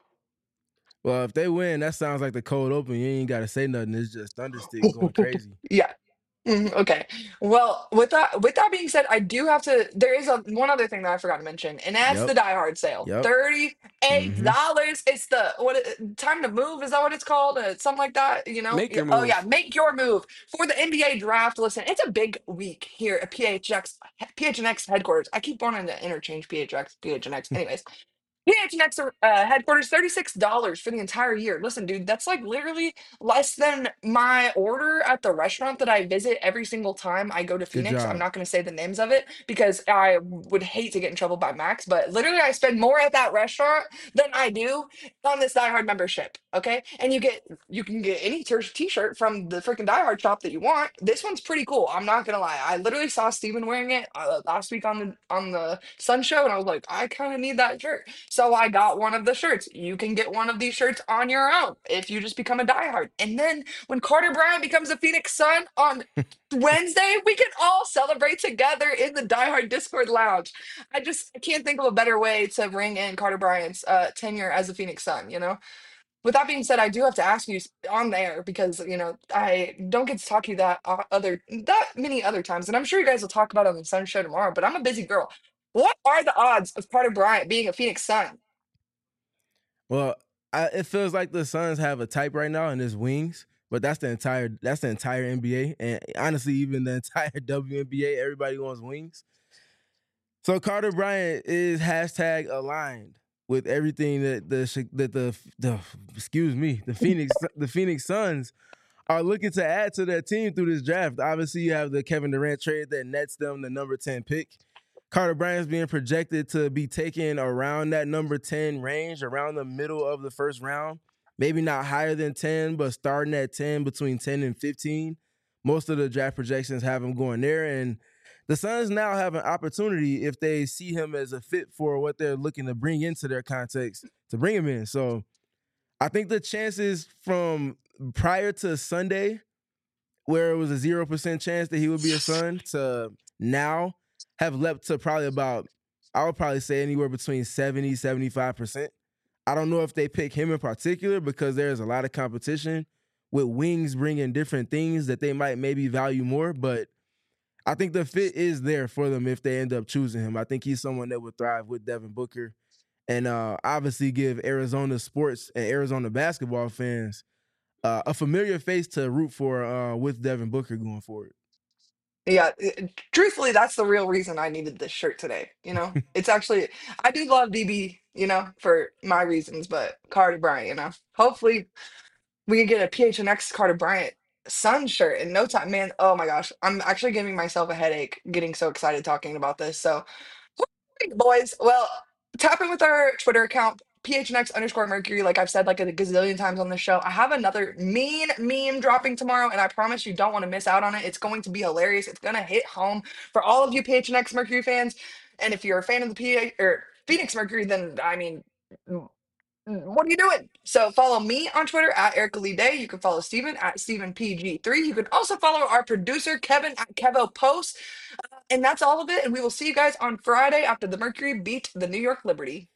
Speaker 2: Well, if they win, that sounds like the cold open. You ain't got to say nothing. It's just Thunderstick going crazy.
Speaker 1: Yeah. Mhm, okay. Well, with that with that being said, I do have to. There is a one other thing that I forgot to mention, and that's
Speaker 2: Yep.
Speaker 1: the Die Hard sale.
Speaker 2: Yep.
Speaker 1: Thirty-eight
Speaker 2: Mhm.
Speaker 1: dollars. It's the what? it- Time to move. Is that what it's called? Uh, something like that. You know?
Speaker 3: Make
Speaker 1: Yeah,
Speaker 3: your
Speaker 1: oh yeah,
Speaker 3: move.
Speaker 1: make your move for the N B A draft. Listen, it's a big week here at P H X P H N X headquarters. I keep wanting to interchange P H X P H N X. Anyways, P H N X uh, headquarters, thirty-six dollars for the entire year. Listen, dude, that's like literally less than my order at the restaurant that I visit every single time I go to
Speaker 2: Good
Speaker 1: Phoenix. I'm
Speaker 2: job.
Speaker 1: not going to say the names of it because I would hate to get in trouble by Max, but literally I spend more at that restaurant than I do on this Die Hard membership. Okay. And you get, you can get any t- t-shirt from the freaking Die Hard shop that you want. This one's pretty cool. I'm not going to lie. I literally saw Steven wearing it uh, last week on the, on the Sun show. And I was like, I kind of need that shirt. So I got one of the shirts. You can get one of these shirts on your own if you just become a diehard. And then when Carter Bryant becomes a Phoenix Sun on Wednesday, we can all celebrate together in the diehard Discord lounge. I just I can't think of a better way to ring in Carter Bryant's uh, tenure as a Phoenix Sun, you know? With that being said, I do have to ask you s- on there because you know I don't get to talk to you that uh, other that many other times, and I'm sure you guys will talk about it on the Sun Show tomorrow. But I'm a busy girl. What are the odds of Carter Bryant being a Phoenix Sun?
Speaker 2: Well, I, it feels like the Suns have a type right now, and it's wings. But that's the entire that's the entire N B A, and honestly, even the entire W N B A, everybody wants wings. So Carter Bryant is hashtag aligned with everything that the that the the excuse me the Phoenix the Phoenix Suns are looking to add to their team through this draft. Obviously, you have the Kevin Durant trade that nets them the number ten pick. Carter Bryant's being projected to be taken around that number ten range, around the middle of the first round. Maybe not higher than ten, but starting at ten, between ten and fifteen. Most of the draft projections have him going there. And the Suns now have an opportunity, if they see him as a fit for what they're looking to bring into their context, to bring him in. So I think the chances from prior to Sunday, where it was a zero percent chance that he would be a Sun, to now have leapt to probably about, I would probably say anywhere between seventy, seventy-five percent. I don't know if they pick him in particular because there's a lot of competition with wings bringing different things that they might maybe value more, but I think the fit is there for them if they end up choosing him. I think he's someone that would thrive with Devin Booker and uh, obviously give Arizona sports and Arizona basketball fans uh, a familiar face to root for uh, with Devin Booker going forward.
Speaker 1: Yeah, i- truthfully, that's the real reason I needed this shirt today. You know, it's actually I do love D B, you know, for my reasons, but Carter Bryant, you know, hopefully we can get a P H N X Carter Bryant Sun shirt in no time, man. Oh my gosh, I'm actually giving myself a headache getting so excited talking about this. So right, boys. Well, tap in with our Twitter account, P H N X underscore Mercury, like I've said like a gazillion times on the show. I have another mean meme dropping tomorrow, and I promise you don't want to miss out on it. It's going to be hilarious. It's going to hit home for all of you P H N X Mercury fans. And if you're a fan of the P A or Phoenix Mercury, then I mean, mm, what are you doing? So follow me on Twitter at Erica Lee Day. You can follow Steven at Steven P G three. You can also follow our producer Kevin at Kevo Post. And that's all of it. And we will see you guys on Friday after the Mercury beat the New York Liberty.